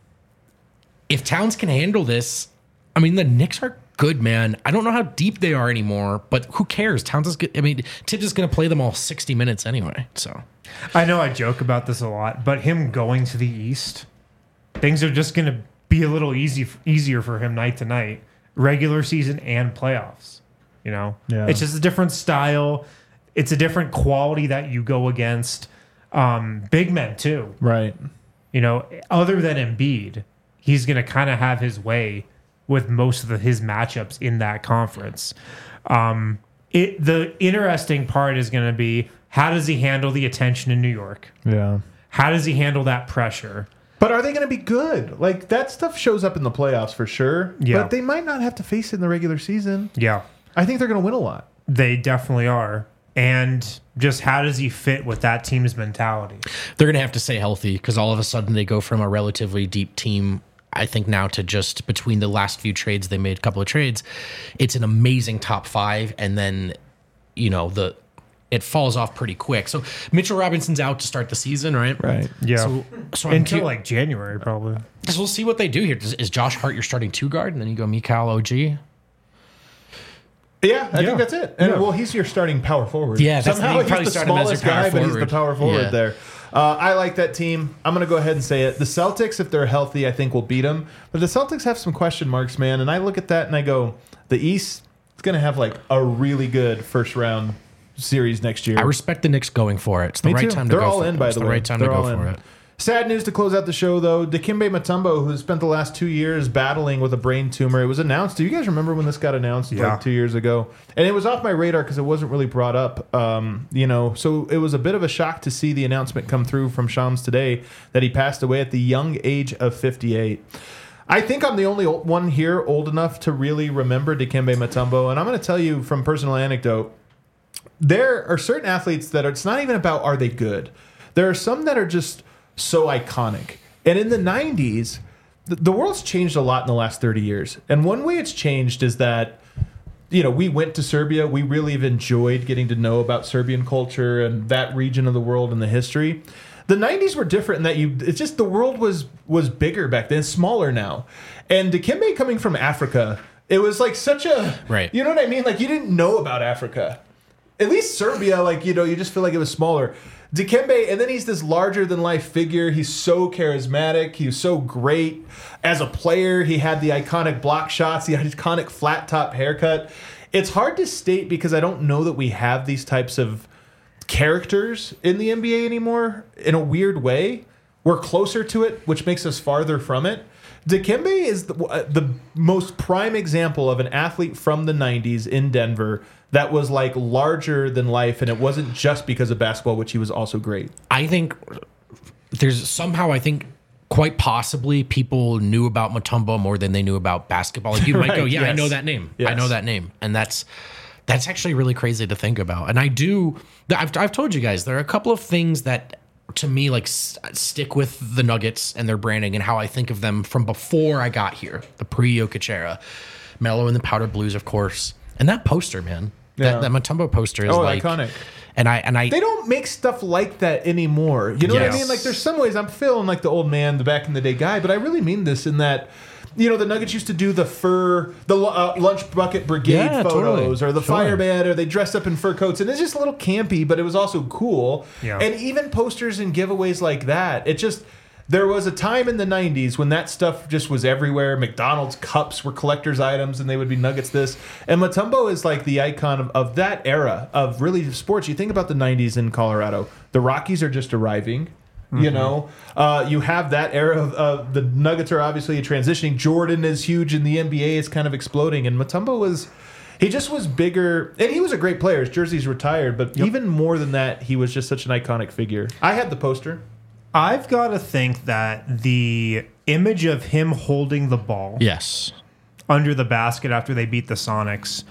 if Towns can handle this, I mean, the Knicks are good, man. I don't know how deep they are anymore, but who cares? Towns is good. I mean, Tibbs is going to play them all 60 minutes anyway. So I know I joke about this a lot, but him going to the East, things are just going to be a little easier for him night to night, regular season and playoffs. You know, It's just a different style. It's a different quality that you go against. Big men too, right? You know, other than Embiid, he's going to kind of have his way with most of his matchups in that conference. The interesting part is going to be how does he handle the attention in New York? Yeah. How does he handle that pressure? But are they going to be good? Like that stuff shows up in the playoffs for sure. Yeah. But they might not have to face it in the regular season. Yeah. I think they're going to win a lot. They definitely are. And just how does he fit with that team's mentality? They're going to have to stay healthy because all of a sudden they go from a relatively deep team, I think, now to just between the last few trades, they made a couple of trades. It's an amazing top five. And then, you know, it falls off pretty quick. So Mitchell Robinson's out to start the season, right? Right. Yeah. So until like January, probably. So we'll see what they do here. Is Josh Hart your starting two guard? And then you go Mikal OG? Yeah, I think that's it. And well, he's your starting power forward. Yeah, that's somehow he's the smallest guy, but he's the power forward Yeah. there. I like that team. I'm going to go ahead and say it. The Celtics, if they're healthy, I think will beat them. But the Celtics have some question marks, man. And I look at that and I go, the East is going to have like a really good first round series next year. I respect the Knicks going for it. It's the right time to They're go all for in, it. by It's the the way. right time to They're go all for in. it. Sad news to close out the show, though. Dikembe Mutombo, who spent the last 2 years battling with a brain tumor, it was announced. Do you guys remember when this got announced like 2 years ago? And it was off my radar because it wasn't really brought up. So it was a bit of a shock to see the announcement come through from Shams today that he passed away at the young age of 58. I think I'm the only one here old enough to really remember Dikembe Mutombo, and I'm going to tell you from personal anecdote, there are certain athletes that it's not even about are they good. There are some that are just so iconic. And in the 90s, the world's changed a lot in the last 30 years. And one way it's changed is that, you know, we went to Serbia. We really have enjoyed getting to know about Serbian culture and that region of the world and the history. The 90s were different in that it's just the world was bigger back then, smaller now. And Dikembe coming from Africa, it was like such a, right. You know what I mean? Like you didn't know about Africa. At least Serbia, like, you know, you just feel like it was smaller. Dikembe, and then he's this larger-than-life figure. He's so charismatic. He was so great. As a player, he had the iconic block shots, the iconic flat-top haircut. It's hard to state because I don't know that we have these types of characters in the NBA anymore in a weird way. We're closer to it, which makes us farther from it. Dikembe is the most prime example of an athlete from the 90s in Denver that was like larger than life, and it wasn't just because of basketball, which he was also great. I think there's somehow, I think quite possibly people knew about Mutombo more than they knew about basketball. Like you might go, yeah, yes. I know that name. Yes. I know that name. And that's actually really crazy to think about. And I've told you guys, there are a couple of things that to me like stick with the Nuggets and their branding and how I think of them from before I got here, the pre-Jokic era. Melo and the Powder Blues, of course. And that poster, man. That Mutombo poster is like iconic. And I they don't make stuff like that anymore. You know what I mean? Like there's some ways I'm feeling like the old man, the back in the day guy, but I really mean this in that, you know, the Nuggets used to do the lunch bucket brigade photos or the fireman, or they dressed up in fur coats, and it's just a little campy, but it was also cool. Yeah. And even posters and giveaways like that, it just. There was a time in the 90s when that stuff just was everywhere. McDonald's cups were collector's items, and they would be Nuggets this. And Mutombo is like the icon of that era of really sports. You think about the 90s in Colorado. The Rockies are just arriving. You know, you have that era of the Nuggets are obviously transitioning. Jordan is huge, and the NBA is kind of exploding. And Mutombo he just was bigger, and he was a great player. His jersey's retired, but even more than that, he was just such an iconic figure. I had the poster. I've got to think that the image of him holding the ball, Yes. under the basket after they beat the Sonics,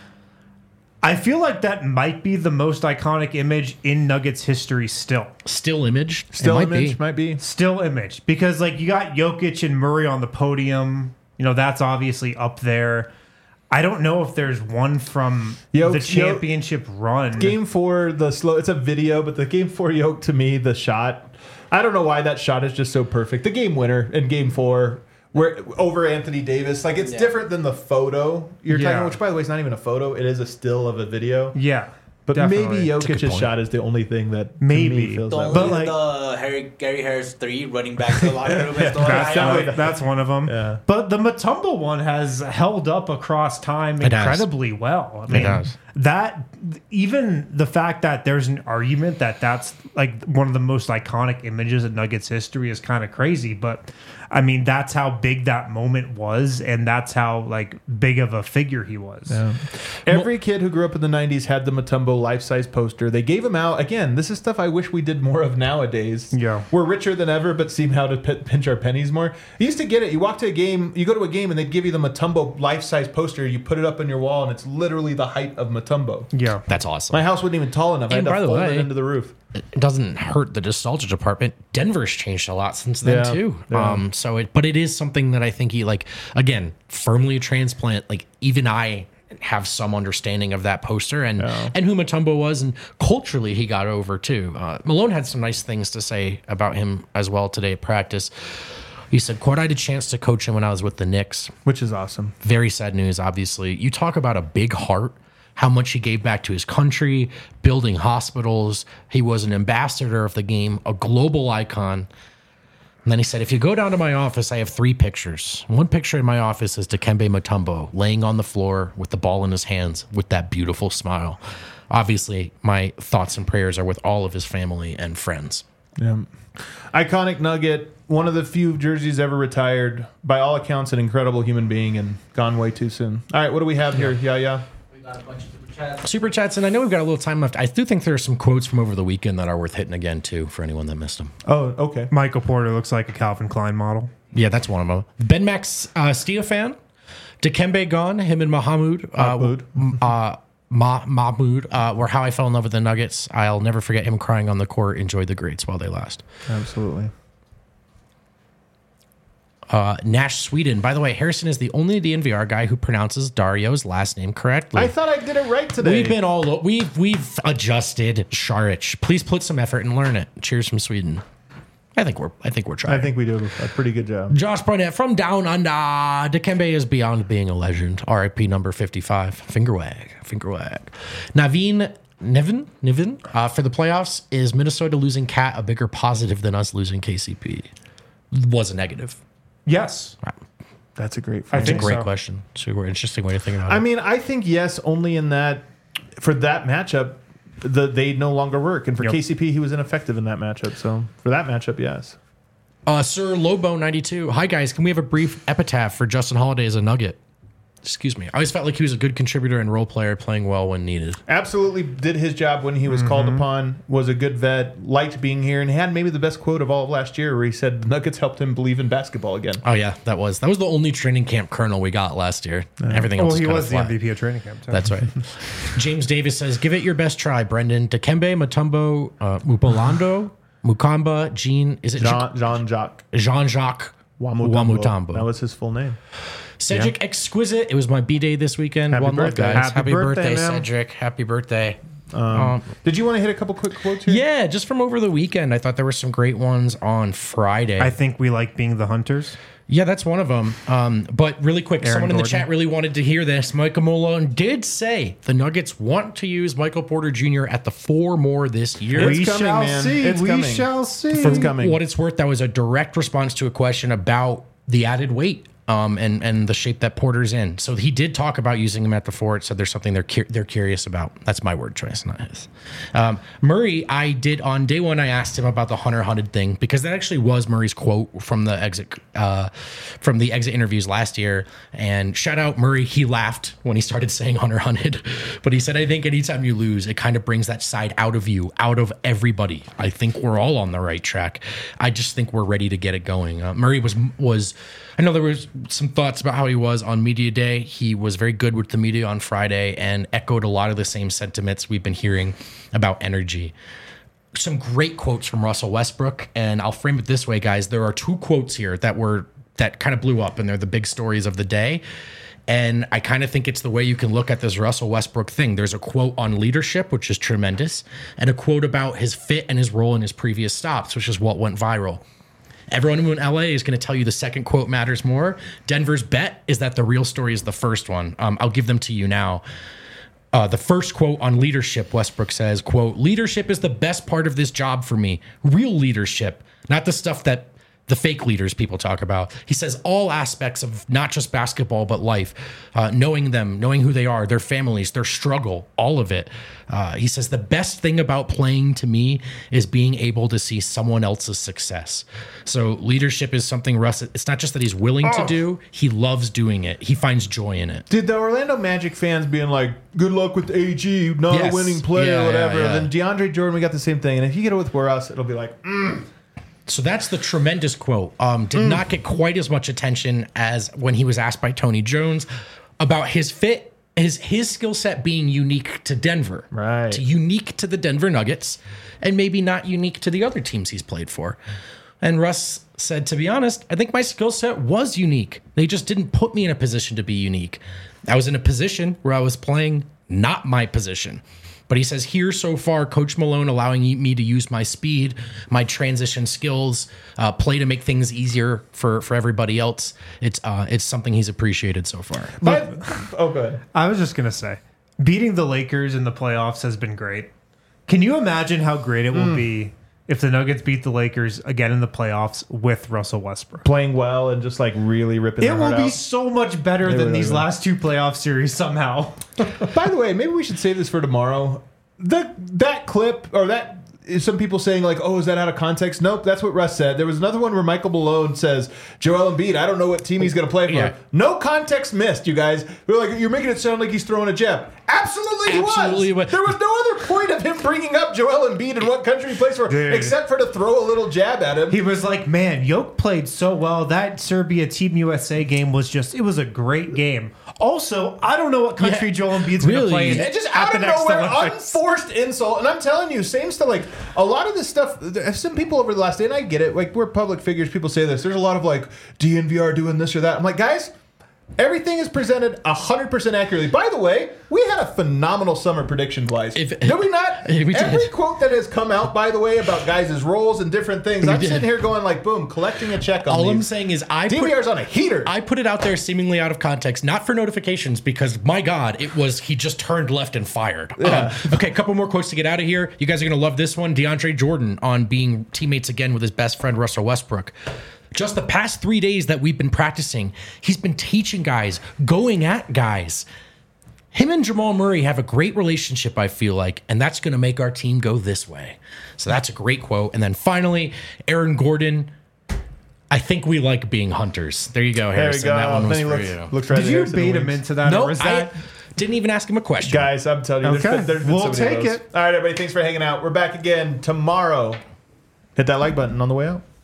I feel like that might be the most iconic image in Nuggets history still. Still image. Still It image might be. Still image. Because, like, you got Jokic and Murray on the podium. You know, that's obviously up there. I don't know if there's one from the championship run. Game 4, it's a video, but the Game 4 Yoke, to me, the shot, I don't know why that shot is just so perfect. The game winner in Game 4, where over Anthony Davis, like it's different than the photo you're talking about, which by the way is not even a photo. It is a still of a video. Yeah. But definitely. maybe Jokic's shot is the only thing that maybe to me feels The that only way. the Gary Harris 3 running back to the locker room. Is the That's one of them. Yeah. But the Mutombo one has held up across time incredibly well. I mean, It has. That, even the fact that there's an argument that that's like one of the most iconic images in Nuggets history is kind of crazy. But I mean, that's how big that moment was, and that's how like big of a figure he was. Yeah. Every kid who grew up in the 90s had the Mutombo life-size poster. They gave them out. Again, this is stuff I wish we did more of nowadays. Yeah. We're richer than ever, but seem how to pinch our pennies more. You used to get it. You walk to a game, you go to a game, and they'd give you the Mutombo life-size poster. You put it up on your wall, and it's literally the height of Mutombo. Yeah. That's awesome. My house wasn't even tall enough. I had And to by the fold it way, into the roof. It doesn't hurt the nostalgia department. Denver's changed a lot since then Yeah. too. Yeah. But it is something that I think he again, firmly a transplant. Like even I have some understanding of that poster and who Mutombo was, and culturally he got over too. Malone had some nice things to say about him as well today at practice. He said, quote, I had a chance to coach him when I was with the Knicks. Which is awesome. Very sad news, obviously. You talk about a big heart, how much he gave back to his country, building hospitals. He was an ambassador of the game, a global icon. And then he said, if you go down to my office, I have 3 pictures. One picture in my office is Dikembe Mutombo laying on the floor with the ball in his hands with that beautiful smile. Obviously, my thoughts and prayers are with all of his family and friends. Yeah. Iconic Nugget, one of the few jerseys ever retired. By all accounts, an incredible human being and gone way too soon. All right, what do we have here? Yeah. We got a bunch of super chats. Super chats, and I know we've got a little time left. I do think there are some quotes from over the weekend that are worth hitting again, too, for anyone that missed them. Oh, okay. Michael Porter looks like a Calvin Klein model. Yeah, that's one of them. Ben Max Steofan, Dikembe gone, him and Mahmoud. Mahmoud were how I fell in love with the Nuggets. I'll never forget him crying on the court. Enjoy the greats while they last. Absolutely. Nash Sweden. By the way, Harrison is the only DNVR guy who pronounces Dario's last name correctly. I thought I did it right today. We've adjusted Sharich. Please put some effort and learn it. Cheers from Sweden. I think we're trying. I think we do a pretty good job. Josh Barnett from Down Under. Dikembe is beyond being a legend. RIP number 55. Finger wag. Nevin, for the playoffs, is Minnesota losing Cat a bigger positive than us losing KCP? Was a negative. Yes. That's a great I It's a think great so. question. It's an interesting way to think about it. I mean, I think yes, only in that for that matchup, they no longer work. And for KCP, he was ineffective in that matchup. So for that matchup, yes. Sir Lobo 92. Hi guys, can we have a brief epitaph for Justin Holiday as a Nugget? Excuse me. I always felt like he was a good contributor and role player, playing well when needed. Absolutely did his job when he was called upon, was a good vet, liked being here, and had maybe the best quote of all of last year where he said the Nuggets helped him believe in basketball again. Oh yeah, that was the only training camp kernel we got last year. Everything else Well, he kind was of the flat. MVP of training camp, too. That's right. James Davis says, give it your best try, Brendan. Dikembe Mutombo, Mupolando, Mukamba, Jean-Jacques Jean-Jacques Wamutombo. That was his full name. Cedric Exquisite. It was my B-Day this weekend. Happy One love, birthday. guys. Happy birthday, man. Cedric. Happy birthday. Did you want to hit a couple quick quotes here? Yeah, just from over the weekend. I thought there were some great ones on Friday. I think we like being the hunters. Yeah, that's one of them. But really quick, Aaron someone in the Gordon. chat really wanted to hear this. Michael Malone did say the Nuggets want to use Michael Porter Jr. at the 4 more this year. It's coming, man. It's coming. shall see. For It's coming. what it's worth, that was a direct response to a question about the added weight and the shape that Porter's in. So he did talk about using him at the 4. It said there's something they're curious about. That's my word choice, not his. Murray, I did on day 1. I asked him about the Hunter hunted thing because that actually was Murray's quote from the exit interviews last year. And shout out Murray, he laughed when he started saying Hunter hunted, but he said, I think anytime you lose, it kind of brings that side out of you, out of everybody. I think we're all on the right track. I just think we're ready to get it going. Murray was I know there was some thoughts about how he was on media day. He was very good with the media on Friday and echoed a lot of the same sentiments we've been hearing about energy. Some great quotes from Russell Westbrook, and I'll frame it this way, guys. There are 2 quotes here that kind of blew up, and they're the big stories of the day. And I kind of think it's the way you can look at this Russell Westbrook thing. There's a quote on leadership, which is tremendous, and a quote about his fit and his role in his previous stops, which is what went viral. Everyone in LA is going to tell you the second quote matters more. Denver's bet is that the real story is the first one. I'll give them to you now. The first quote on leadership, Westbrook says, quote, leadership is the best part of this job for me. Real leadership, not the stuff that the fake leaders people talk about. He says all aspects of not just basketball, but life, knowing them, knowing who they are, their families, their struggle, all of it. He says the best thing about playing to me is being able to see someone else's success. So leadership is something Russ, it's not just that he's willing to do, he loves doing it. He finds joy in it. Did the Orlando Magic fans being like, good luck with AG, not a winning player or whatever. Yeah. Then DeAndre Jordan, we got the same thing. And if you get it with Russ, it'll be like, So that's the tremendous quote. Did not get quite as much attention as when he was asked by Tony Jones about his fit, his skill set being unique to Denver, right? Unique to the Denver Nuggets, and maybe not unique to the other teams he's played for. And Russ said, to be honest, I think my skill set was unique. They just didn't put me in a position to be unique. I was in a position where I was playing not my position. But he says here so far, Coach Malone allowing me to use my speed, my transition skills, play to make things easier for everybody else. It's something he's appreciated so far. But, go ahead. I was just going to say, beating the Lakers in the playoffs has been great. Can you imagine how great it will be if the Nuggets beat the Lakers again in the playoffs with Russell Westbrook? Playing well and just like really ripping their heart out. It will be so much better than these last 2 playoff series somehow. By the way, maybe we should save this for tomorrow. That clip, or that is some people saying like, oh, is that out of context? Nope, that's what Russ said. There was another one where Michael Malone says, Joel Embiid, I don't know what team he's going to play for. Yeah. No context missed, you guys. We're like, you're making it sound like he's throwing a jab. Absolutely he was. There was no other point of him bringing up Joel Embiid and what country he plays for, except for to throw a little jab at him. He was like, man, Jokic played so well. That Serbia Team USA game was it was a great game. Also, I don't know what country Joel Embiid's going to play in. It just out of nowhere, unforced insult. And I'm telling you, same stuff. Like, a lot of this stuff, some people over the last day, and I get it, like, we're public figures, people say this. There's a lot of, like, DNVR doing this or that. I'm like, guys, everything is presented 100% accurately. By the way, we had a phenomenal summer prediction-wise. Did we not? Every quote that has come out, by the way, about guys' roles and different things, I'm sitting here going like, boom, collecting a check on All these. I'm saying is DNVR's on a heater. I put it out there seemingly out of context, not for notifications, because, my God, it was he just turned left and fired. Yeah. Okay, a couple more quotes to get out of here. You guys are going to love this one. DeAndre Jordan on being teammates again with his best friend, Russell Westbrook. Just the past 3 days that we've been practicing, he's been teaching guys, going at guys. Him and Jamal Murray have a great relationship, I feel like, and that's going to make our team go this way. So that's a great quote. And then finally, Aaron Gordon, I think we like being hunters. There you go, Harrison. There you go. That one was for you. Looks right. Did you bait him into that? No, or is that... I didn't even ask him a question. Guys, I'm telling you, Okay. there's been We'll so many take of those. it. All right, everybody, thanks for hanging out. We're back again tomorrow. Hit that like button on the way out.